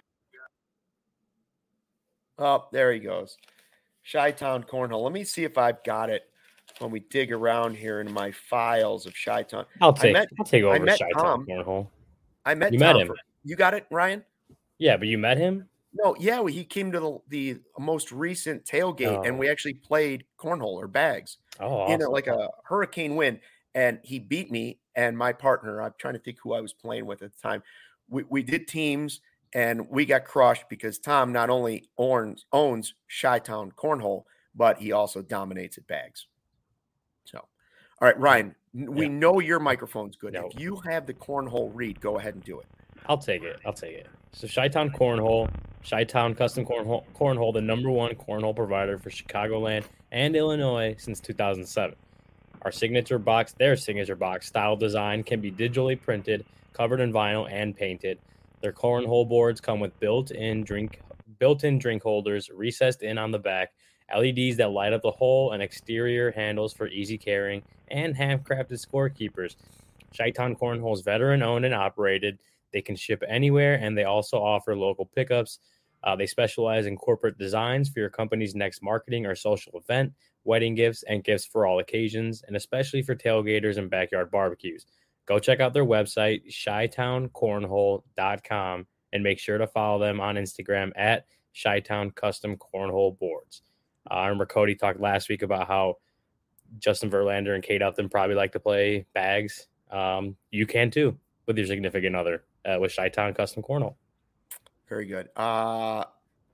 A: Oh, there he goes. Chi-Town Cornhole. Let me see if I've got it when we dig around here in my files of Chi-Town.
B: I'll take over Chi-Town Cornhole.
A: I met
B: you
A: Tom.
B: Met him.
A: You got it, Ryan?
B: Yeah, but you met him?
A: No, yeah, he came to the most recent tailgate, and we actually played cornhole or bags in like a hurricane wind, and he beat me and my partner. I'm trying to think who I was playing with at the time. We did teams, and we got crushed because Tom not only owns Chi-Town Cornhole, but he also dominates at bags. So, all right, Ryan, we know your microphone's good. No. If you have the cornhole read, go ahead and do it.
B: I'll take it. So Chi-Town Cornhole, Chi-Town Custom Cornhole, the #1 cornhole provider for Chicagoland and Illinois since 2007. Their signature box style design can be digitally printed, covered in vinyl, and painted. Their cornhole boards come with built-in drink holders recessed in on the back, LEDs that light up the hole, and exterior handles for easy carrying, and handcrafted scorekeepers. Chi-Town Cornhole is veteran-owned and operated. They can ship anywhere, and they also offer local pickups. They specialize in corporate designs for your company's next marketing or social event, wedding gifts, and gifts for all occasions, and especially for tailgaters and backyard barbecues. Go check out their website, chitowncornhole.com, and make sure to follow them on Instagram at Chi-Town Custom Cornhole Boards. I remember Cody talked last week about how Justin Verlander and Kate Upton probably like to play bags. You can too with your significant other with Chi-Town Custom Cornhole.
A: Very good. Pause.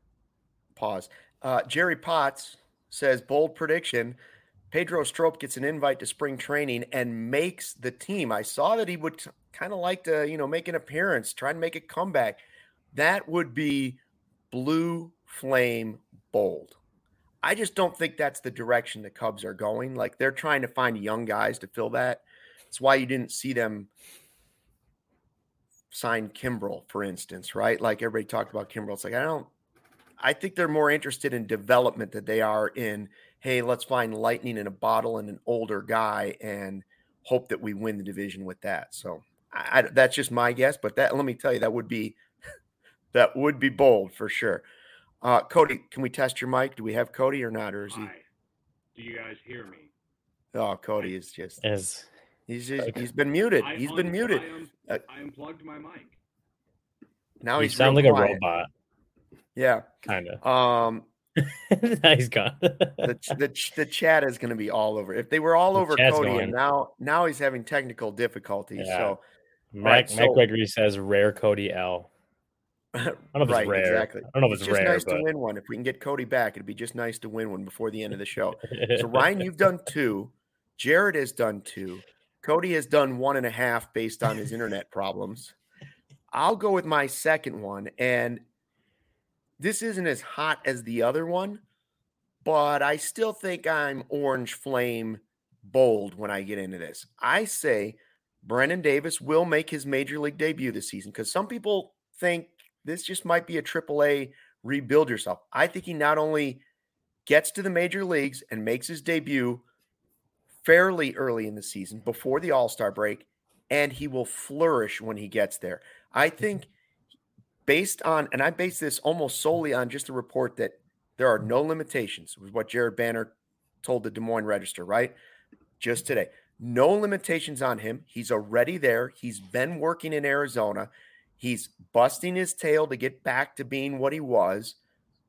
A: Jerry Potts says, bold prediction. Pedro Strop gets an invite to spring training and makes the team. I saw that he would kind of like to, make an appearance, try and make a comeback. That would be blue flame bold. I just don't think that's the direction the Cubs are going. Like, they're trying to find young guys to fill that. That's why you didn't see them sign Kimbrel, for instance, right? Like, everybody talked about Kimbrel. It's like, I think they're more interested in development than they are in, hey, let's find lightning in a bottle and an older guy and hope that we win the division with that. So that's just my guess, but let me tell you, that would be bold for sure. Cody, can we test your mic? Do we have Cody or not? Or is he?
E: Do you guys hear me?
A: Oh, Cody is just. He's been muted. I
E: unplugged my mic.
A: Now
B: you sound like
A: quiet.
B: A robot.
A: Yeah,
B: kind of.
A: Now he's gone. the chat is going to be all over. If they were all over Cody, and now he's having technical difficulties. Yeah. So
B: Mac Gregory says rare Cody L. I don't know if it's rare.
A: Exactly.
B: I don't know if it's
A: just
B: rare.
A: Nice to win one. If we can get Cody back, it'd be just nice to win one before the end of the show. So Ryan, you've done 2. Jared has done 2. Cody has done 1.5 based on his internet problems. I'll go with my second one, and this isn't as hot as the other one, but I still think I'm orange flame bold when I get into this. I say Brennen Davis will make his major league debut this season because some people think this just might be a AAA rebuild yourself. I think he not only gets to the major leagues and makes his debut fairly early in the season before the All-Star break, and he will flourish when he gets there. I think based on, and I base this almost solely on just a report that there are no limitations, was what Jared Banner told the Des Moines Register, right? Just today. No limitations on him. He's already there. He's been working in Arizona. He's busting his tail to get back to being what he was.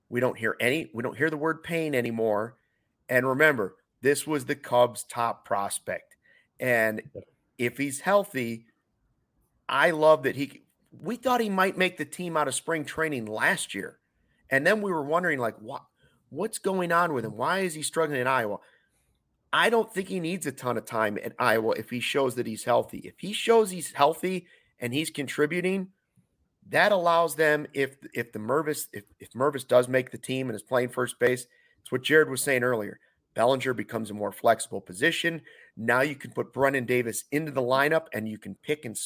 A: We don't hear the word pain anymore. And remember, this was the Cubs' top prospect. And if he's healthy, I love that we thought he might make the team out of spring training last year. And then we were wondering, like, what's going on with him? Why is he struggling in Iowa? I don't think he needs a ton of time at Iowa if he shows that he's healthy. If he shows he's healthy and he's contributing, that allows them, if Mervis does make the team and is playing first base, it's what Jared was saying earlier. Bellinger becomes a more flexible position. Now you can put Brennan Davis into the lineup and you can pick and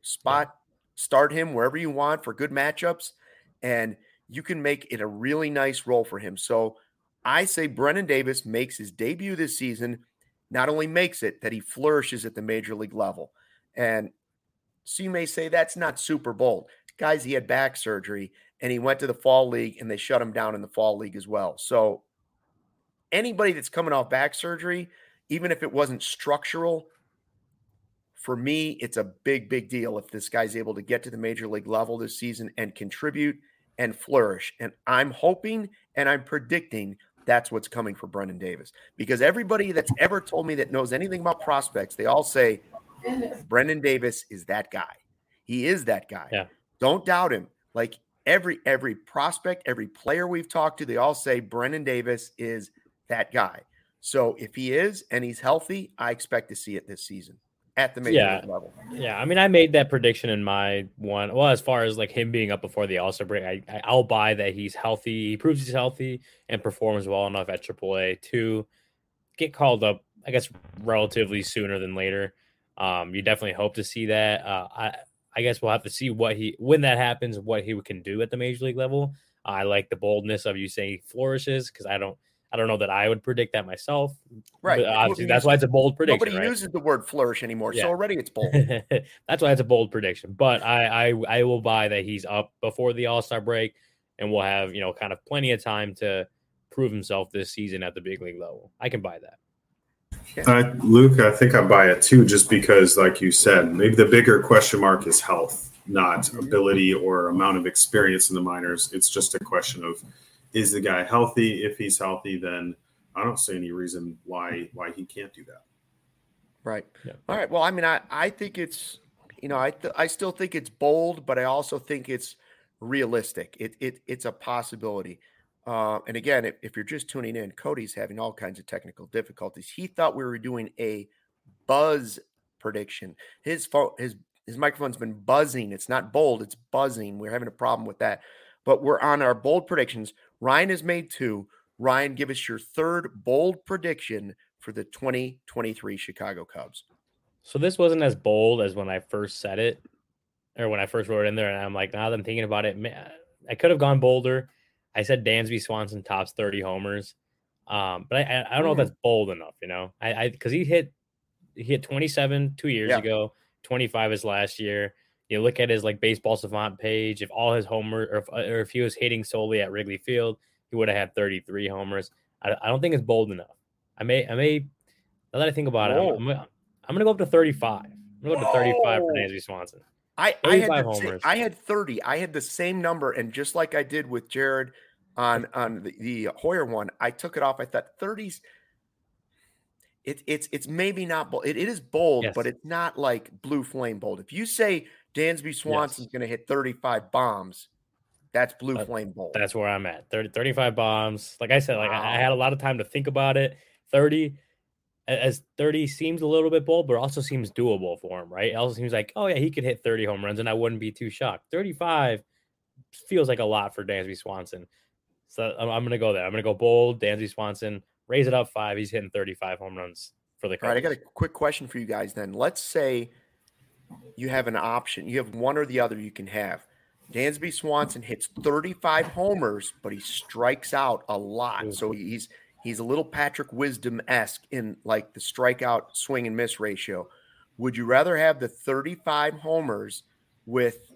A: start him wherever you want for good matchups. And you can make it a really nice role for him. So I say Brennan Davis makes his debut this season, not only makes it, that he flourishes at the major league level. And so you may say that's not super bold. Guys, he had back surgery and he went to the fall league and they shut him down in the fall league as well. So anybody that's coming off back surgery, even if it wasn't structural, for me, it's a big, big deal if this guy's able to get to the major league level this season and contribute and flourish. And I'm hoping and I'm predicting that's what's coming for Brennan Davis. Because everybody that's ever told me that knows anything about prospects, they all say, Brennan Davis is that guy. He is that guy.
B: Yeah.
A: Don't doubt him. Like every prospect, every player we've talked to, they all say Brennan Davis is that guy. So if he is and he's healthy, I expect to see it this season at the major league level.
B: Yeah, I mean, I made that prediction in my one. Well, as far as like him being up before the All-Star break, I'll buy that he's healthy. He proves he's healthy and performs well enough at AAA to get called up, I guess, relatively sooner than later. You definitely hope to see that. I guess we'll have to see when that happens, what he can do at the major league level. I like the boldness of you saying he flourishes because I don't know that I would predict that myself.
A: Right.
B: Obviously, that's why it's a bold prediction.
A: Nobody uses the word flourish anymore, so already it's bold.
B: That's why it's a bold prediction. But I will buy that he's up before the All-Star break, and we'll have kind of plenty of time to prove himself this season at the big league level. I can buy that.
D: Luke, I think I buy it too, just because, like you said, maybe the bigger question mark is health, not ability or amount of experience in the minors. It's just a question of, is the guy healthy? If he's healthy, then I don't see any reason why he can't do that.
A: Right. Yeah. All right. Well, I mean, I think it's, I still think it's bold, but I also think it's realistic. It's a possibility. And again, if you're just tuning in, Cody's having all kinds of technical difficulties. He thought we were doing a buzz prediction. His microphone's been buzzing. It's not bold, it's buzzing. We're having a problem with that. But we're on our bold predictions. Ryan has made 2. Ryan, give us your third bold prediction for the 2023 Chicago Cubs.
B: So this wasn't as bold as when I first said it, or when I first wrote it in there. And I'm like, now that I'm thinking about it, man, I could have gone bolder. I said Dansby Swanson tops 30 homers. But I don't know if that's bold enough, because he hit 27 2 years ago, 25 his last year. You look at his Baseball Savant page, if all his homers, or if he was hitting solely at Wrigley Field, he would have had 33 homers. I don't think it's bold enough. I may, now that I think about it, I'm going to go up to 35. I'm going to go up to 35 for Dansby Swanson.
A: I had 30. I had the same number, and just like I did with Jared on the Hoyer one, I took it off. I thought 30s. It's maybe not bold. It is bold, yes, but it's not like blue flame bold. If you say Dansby Swanson's going to hit 35 bombs, that's blue flame bold.
B: That's where I'm at. 35 bombs. Like I said, I had a lot of time to think about it. 30 seems a little bit bold, but also seems doable for him, right? It also seems like, oh yeah, he could hit 30 home runs, and I wouldn't be too shocked. 35 feels like a lot for Dansby Swanson. So I'm going to go there. I'm going to go bold, Dansby Swanson, raise it up 5. He's hitting 35 home runs for the Cubs.
A: All right, I got a quick question for you guys then. Let's say you have an option. You have one or the other you can have. Dansby Swanson hits 35 homers, but he strikes out a lot. Mm-hmm. So he's a little Patrick Wisdom-esque in like the strikeout swing and miss ratio. Would you rather have the 35 homers with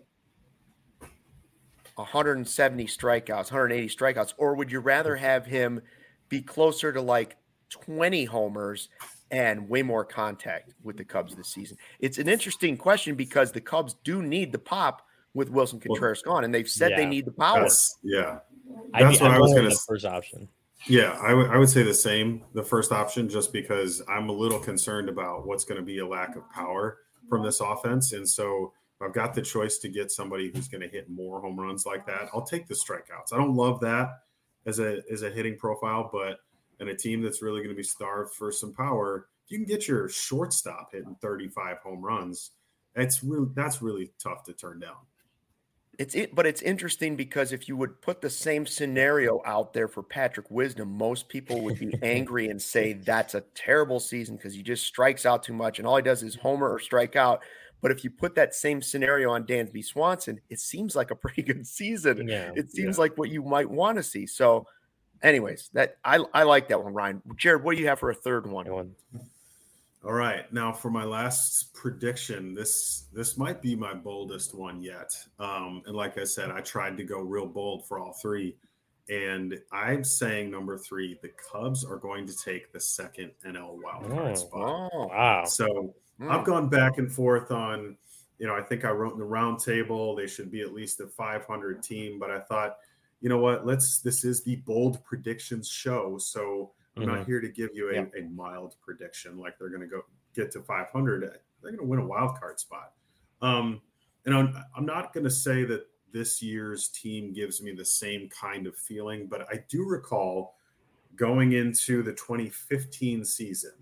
A: 170 strikeouts, 180 strikeouts, or would you rather have him be closer to like 20 homers and way more contact with the Cubs this season? It's an interesting question because the Cubs do need the pop with Wilson Contreras gone, and they've said they need the power.
D: That's what I was going to
B: say. First option.
D: Yeah, I would say the same, the first option, just because I'm a little concerned about what's going to be a lack of power from this offense. And so if I've got the choice to get somebody who's going to hit more home runs like that, I'll take the strikeouts. I don't love that as a hitting profile, but in a team that's really going to be starved for some power, if you can get your shortstop hitting 35 home runs, that's really tough to turn down.
A: But it's interesting because if you would put the same scenario out there for Patrick Wisdom, most people would be angry and say that's a terrible season because he just strikes out too much and all he does is homer or strike out. But if you put that same scenario on Dansby Swanson, it seems like a pretty good season. Yeah, it seems like what you might want to see. So, anyways, that I like that one, Ryan. Jared, what do you have for a third one?
D: All right. Now for my last prediction, this might be my boldest one yet. And like I said, I tried to go real bold for all three. And I'm saying number 3, the Cubs are going to take the second NL wildcard spot.
A: Oh, wow.
D: So I've gone back and forth on, I think I wrote in the round table, they should be at least a 500 team. But I thought, you know what, this is the bold predictions show. So I'm not here to give you a mild prediction like they're going to get to 500. They're going to win a wild card spot. And I'm not going to say that this year's team gives me the same kind of feeling, but I do recall going into the 2015 season,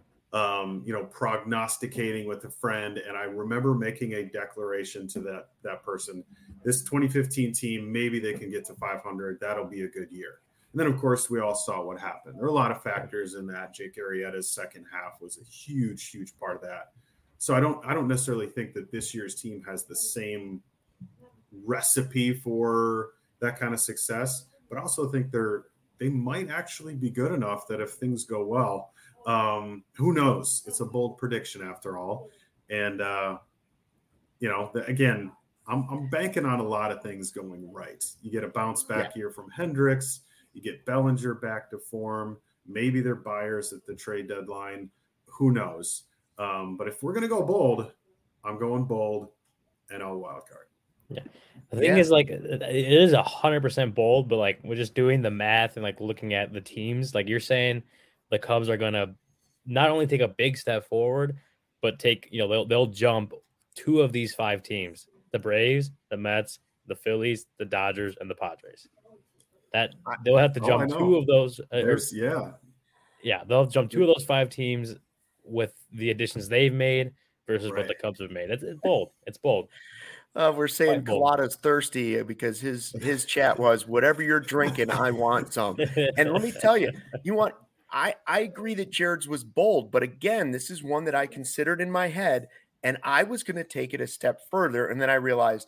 D: prognosticating with a friend. And I remember making a declaration to that person, this 2015 team, maybe they can get to 500. That'll be a good year. And then, of course, we all saw what happened. There are a lot of factors in that. Jake Arrieta's second half was a huge, huge part of that. So I don't necessarily think that this year's team has the same recipe for that kind of success, but I also think they might actually be good enough that if things go well, who knows? It's a bold prediction after all. And, again, I'm banking on a lot of things going right. You get a bounce back year from Hendricks. You get Bellinger back to form. Maybe they're buyers at the trade deadline. Who knows? But if we're going to go bold, I'm going bold and NL wildcard.
B: Yeah. The thing is, like, it is 100% bold, but, like, we're just doing the math and, like, looking at the teams. Like, you're saying the Cubs are going to not only take a big step forward, but take, they'll jump 2 of these 5 teams, the Braves, the Mets, the Phillies, the Dodgers, and the Padres. That they'll have to jump 2 of those. They'll jump 2 of those 5 teams with the additions they've made versus what the Cubs have made. It's bold. It's bold.
A: We're saying Collada's thirsty because his chat was, whatever you're drinking, I want some. And let me tell you, I agree that Jared's was bold, but again, this is one that I considered in my head, and I was going to take it a step further, and then I realized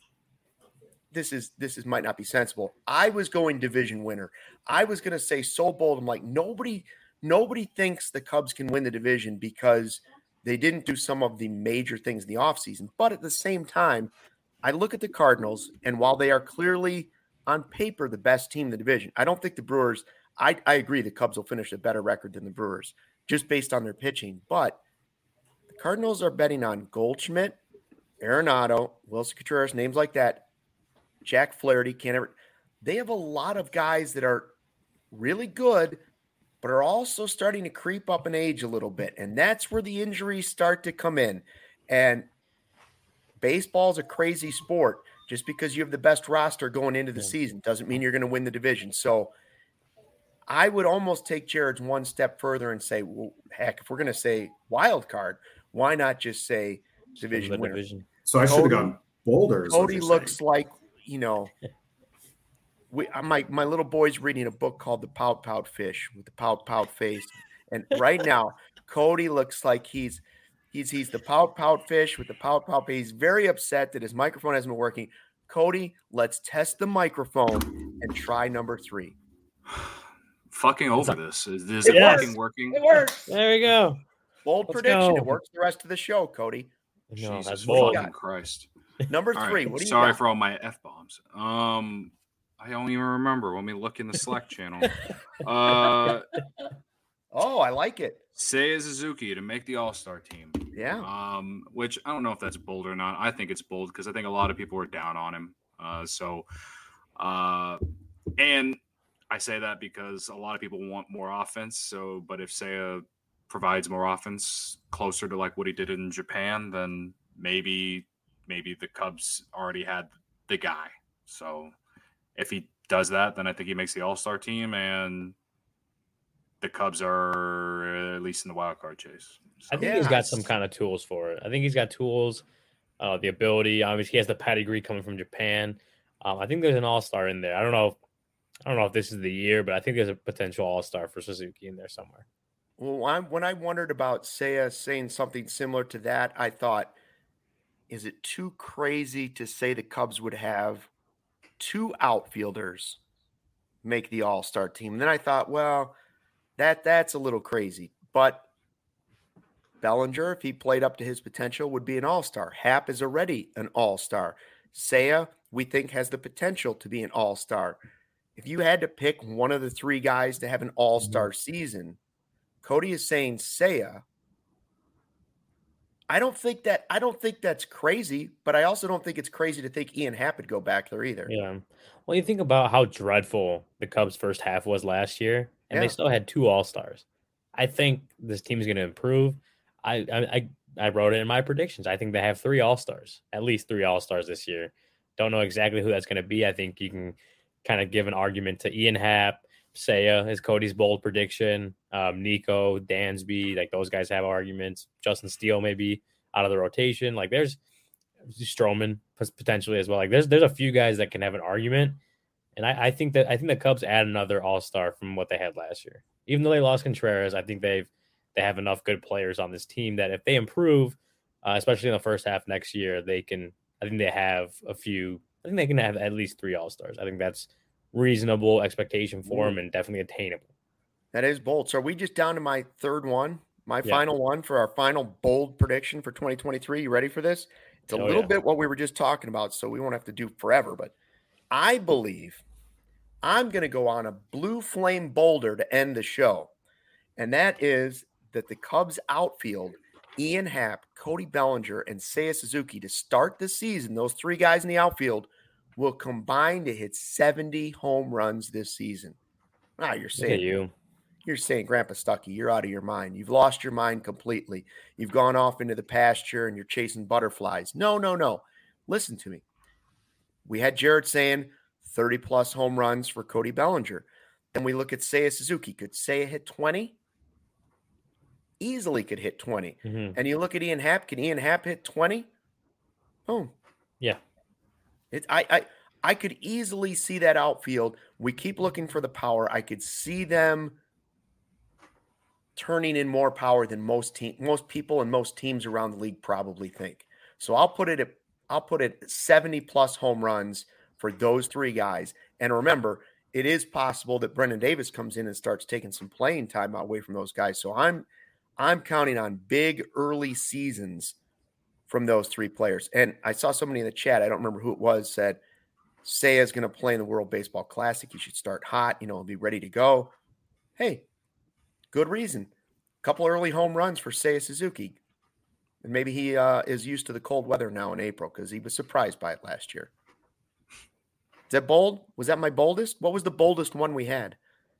A: this might not be sensible. I was going division winner. I was going to say so bold. I'm like, nobody thinks the Cubs can win the division because they didn't do some of the major things in the offseason. But at the same time, I look at the Cardinals, and while they are clearly on paper the best team in the division, I don't think the Brewers – I agree the Cubs will finish a better record than the Brewers just based on their pitching. But the Cardinals are betting on Goldschmidt, Arenado, Wilson Contreras, names like that, Jack Flaherty, they have a lot of guys that are really good, but are also starting to creep up in age a little bit. And that's where the injuries start to come in. And baseball's a crazy sport. Just because you have the best roster going into the season doesn't mean you're going to win the division. So I would almost take Jared's one step further and say, well, heck, if we're going to say wild card, why not just say division winner?
D: So I should have gone bolder.
A: Cody looks like, my little boy's reading a book called The Pout Pout Fish with the pout pout face. And right now, Cody looks like he's the pout pout fish with the pout pout face. He's very upset that his microphone hasn't been working. Cody, let's test the microphone and try number 3.
C: Fucking over this. Is it fucking working?
A: It works.
B: There we go.
A: Bold prediction. It works the rest of the show, Cody.
C: No, Jesus fucking Christ.
A: Number 3.
C: Right.
A: What do you
C: Sorry
A: got?
C: for all my F-bombs. I don't even remember. Let me look in the Slack channel.
A: I like it.
C: Seiya Suzuki to make the All-Star team.
A: Yeah.
C: Which I don't know if that's bold or not. I think it's bold because I think a lot of people were down on him. And I say that because a lot of people want more offense. So, but if Seiya provides more offense closer to like what he did in Japan, then maybe the Cubs already had the guy. So if he does that, then I think he makes the All-Star team, and the Cubs are at least in the wild card chase. So,
B: I think he's got some kind of tools for it. I think he's got tools, the ability. Obviously, he has the pedigree coming from Japan. I think there's an All-Star in there. I don't know if this is the year, but I think there's a potential All-Star for Suzuki in there somewhere.
A: Well, when I wondered about Seiya saying something similar to that, I thought, is it too crazy to say the Cubs would have 2 outfielders make the All-Star team? And then I thought, well, that's a little crazy. But Bellinger, if he played up to his potential, would be an All-Star. Happ is already an All-Star. Seiya, we think, has the potential to be an All-Star. If you had to pick one of the 3 guys to have an All-Star season, Cody is saying Seiya. I don't think that's crazy, but I also don't think it's crazy to think Ian Happ would go back there either.
B: Yeah. Well, you think about how dreadful the Cubs' first half was last year, and they still had 2 All-Stars. I think this team is going to improve. I wrote it in my predictions. I think they have 3 All-Stars, at least 3 All-Stars this year. Don't know exactly who that's going to be. I think you can kind of give an argument to Ian Happ, Seiya is Cody's bold prediction. Nico, Dansby, like those guys have arguments. Justin Steele maybe out of the rotation. Like there's Stroman potentially as well. Like there's a few guys that can have an argument. And I think the Cubs add another All-Star from what they had last year. Even though they lost Contreras, I think they have enough good players on this team that if they improve, especially in the first half next year, they can. I think they have a few. I think they can have at least 3 All-Stars. I think that's reasonable expectation for them and definitely attainable.
A: That is bold. So are we just down to my third one, final one for our final bold prediction for 2023? You ready for this? It's a little bit what we were just talking about, so we won't have to do forever. But I believe I'm going to go on a blue flame boulder to end the show. And that is that the Cubs outfield, Ian Happ, Cody Bellinger, and Seiya Suzuki to start the season, those 3 guys in the outfield will combine to hit 70 home runs this season. You're saying You're saying, Grandpa Stuckey, you're out of your mind. You've lost your mind completely. You've gone off into the pasture and you're chasing butterflies. No. Listen to me. We had Jared saying 30-plus home runs for Cody Bellinger. Then we look at Seiya Suzuki. Could Seiya hit 20? Easily could hit 20. Mm-hmm. And you look at Ian Happ. Can Ian Happ hit 20? Boom.
B: Yeah.
A: I could easily see that outfield. We keep looking for the power. I could see them turning in more power than most people and most teams around the league probably think. So I'll put it at 70 plus home runs for those 3 guys. And remember, it is possible that Brendan Davis comes in and starts taking some playing time away from those guys. So I'm counting on big early seasons from those 3 players. And I saw somebody in the chat, I don't remember who it was, said Seiya is going to play in the World Baseball Classic. He should start hot, and be ready to go. Hey, good reason. A couple early home runs for Seiya Suzuki. And maybe he is used to the cold weather now in April because he was surprised by it last year. Is that bold? Was that my boldest? What was the boldest one we had?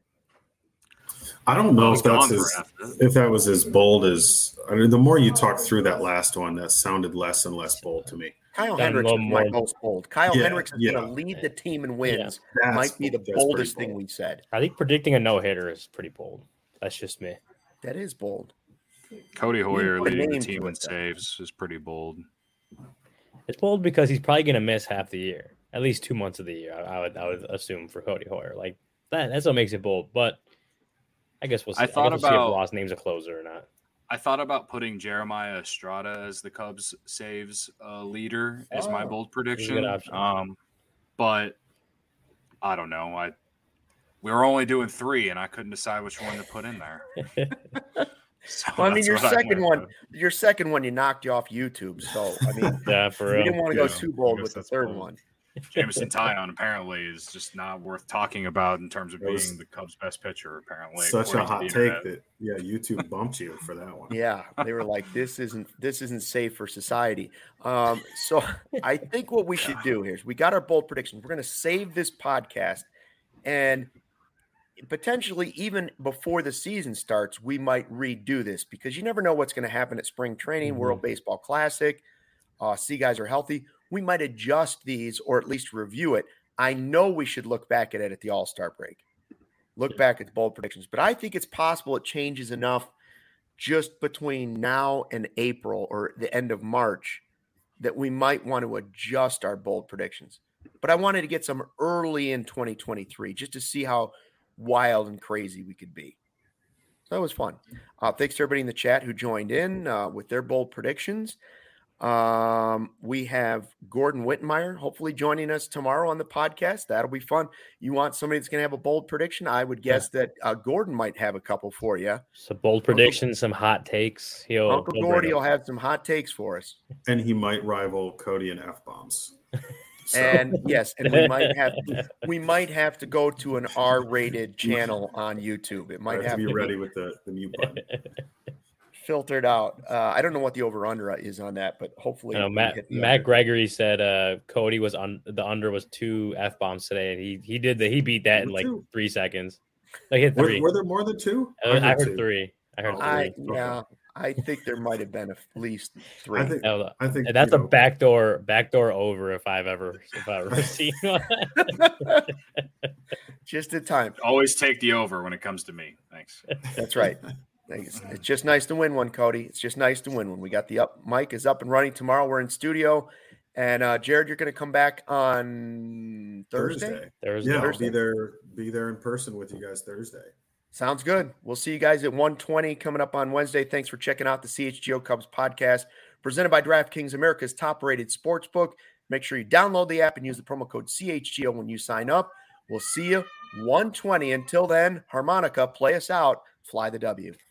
D: I don't know if that was as bold as – the more you talk through that last one, that sounded less and less bold to me.
A: Kyle Hendricks is my most bold. Hendricks is going to lead the team in wins. Yeah. Might be the boldest thing we said.
B: I think predicting a no-hitter is pretty bold. That's just me.
A: That is bold.
C: Cody Hoyer leading the team in saves is pretty bold.
B: It's bold because he's probably going to miss half the year, at least 2 months of the year. I would assume for Cody Hoyer. Like that's what makes it bold. But I guess we'll see. We'll see if Ross names a closer or not.
C: I thought about putting Jeremiah Estrada as the Cubs saves leader as my bold prediction. But I don't know. We were only doing 3, and I couldn't decide which one to put in there.
A: So well, I mean, your second one, you knocked you off YouTube. So I mean,
B: yeah, for real.
A: You didn't want to go too bold with the third one.
C: Jameson Taillon apparently is just not worth talking about in terms of being the Cubs' best pitcher. Apparently,
D: such a hot take that YouTube bumped you for that one.
A: Yeah, they were like, this isn't safe for society. So I think what we should do here is we got our bold predictions. We're going to save this podcast, And potentially even before the season starts, we might redo this because you never know what's going to happen at spring training, World Baseball Classic. See, guys are healthy. We might adjust these or at least review it. I know we should look back at it at the All-Star break. Look back at the bold predictions. But I think it's possible it changes enough just between now and April or the end of March that we might want to adjust our bold predictions. But I wanted to get some early in 2023 just to see how wild and crazy we could be. So that was fun. Thanks to everybody in the chat who joined in with their bold predictions. We have Gordon Wittenmeyer hopefully joining us tomorrow on the podcast. That'll be fun. You want somebody that's going to have a bold prediction? I would guess that Gordon might have a couple for you.
B: So bold predictions, some hot takes.
A: Uncle Gordy will have some hot takes for us.
D: And he might rival Cody in F-bombs.
A: So. And yes, and we might have to go to an R-rated channel on YouTube. It might have to
D: be ready with the mute button.
A: Filtered out. I don't know what the over/under is on that, but hopefully
B: Matt Gregory said Cody was on the under was 2 F-bombs today, and he beat that in like 3 seconds. Like hit 3.
D: Were there more than 2?
B: I heard 3. I heard 3.
A: Yeah. I think there might have been at least 3.
D: I think
B: that's a backdoor over if I've ever seen one.
A: Just a time.
C: Always take the over when it comes to me. Thanks.
A: That's right. It's just nice to win one, Cody. It's just nice to win one. We got the mic is up and running tomorrow. We're in studio, and Jared, you're going to come back on Thursday.
D: Yeah, I'll be there in person with you guys Thursday.
A: Sounds good. We'll see you guys at 1:20 coming up on Wednesday. Thanks for checking out the CHGO Cubs podcast presented by DraftKings, America's top-rated sportsbook. Make sure you download the app and use the promo code CHGO when you sign up. We'll see you 1:20. Until then, harmonica, play us out. Fly the W.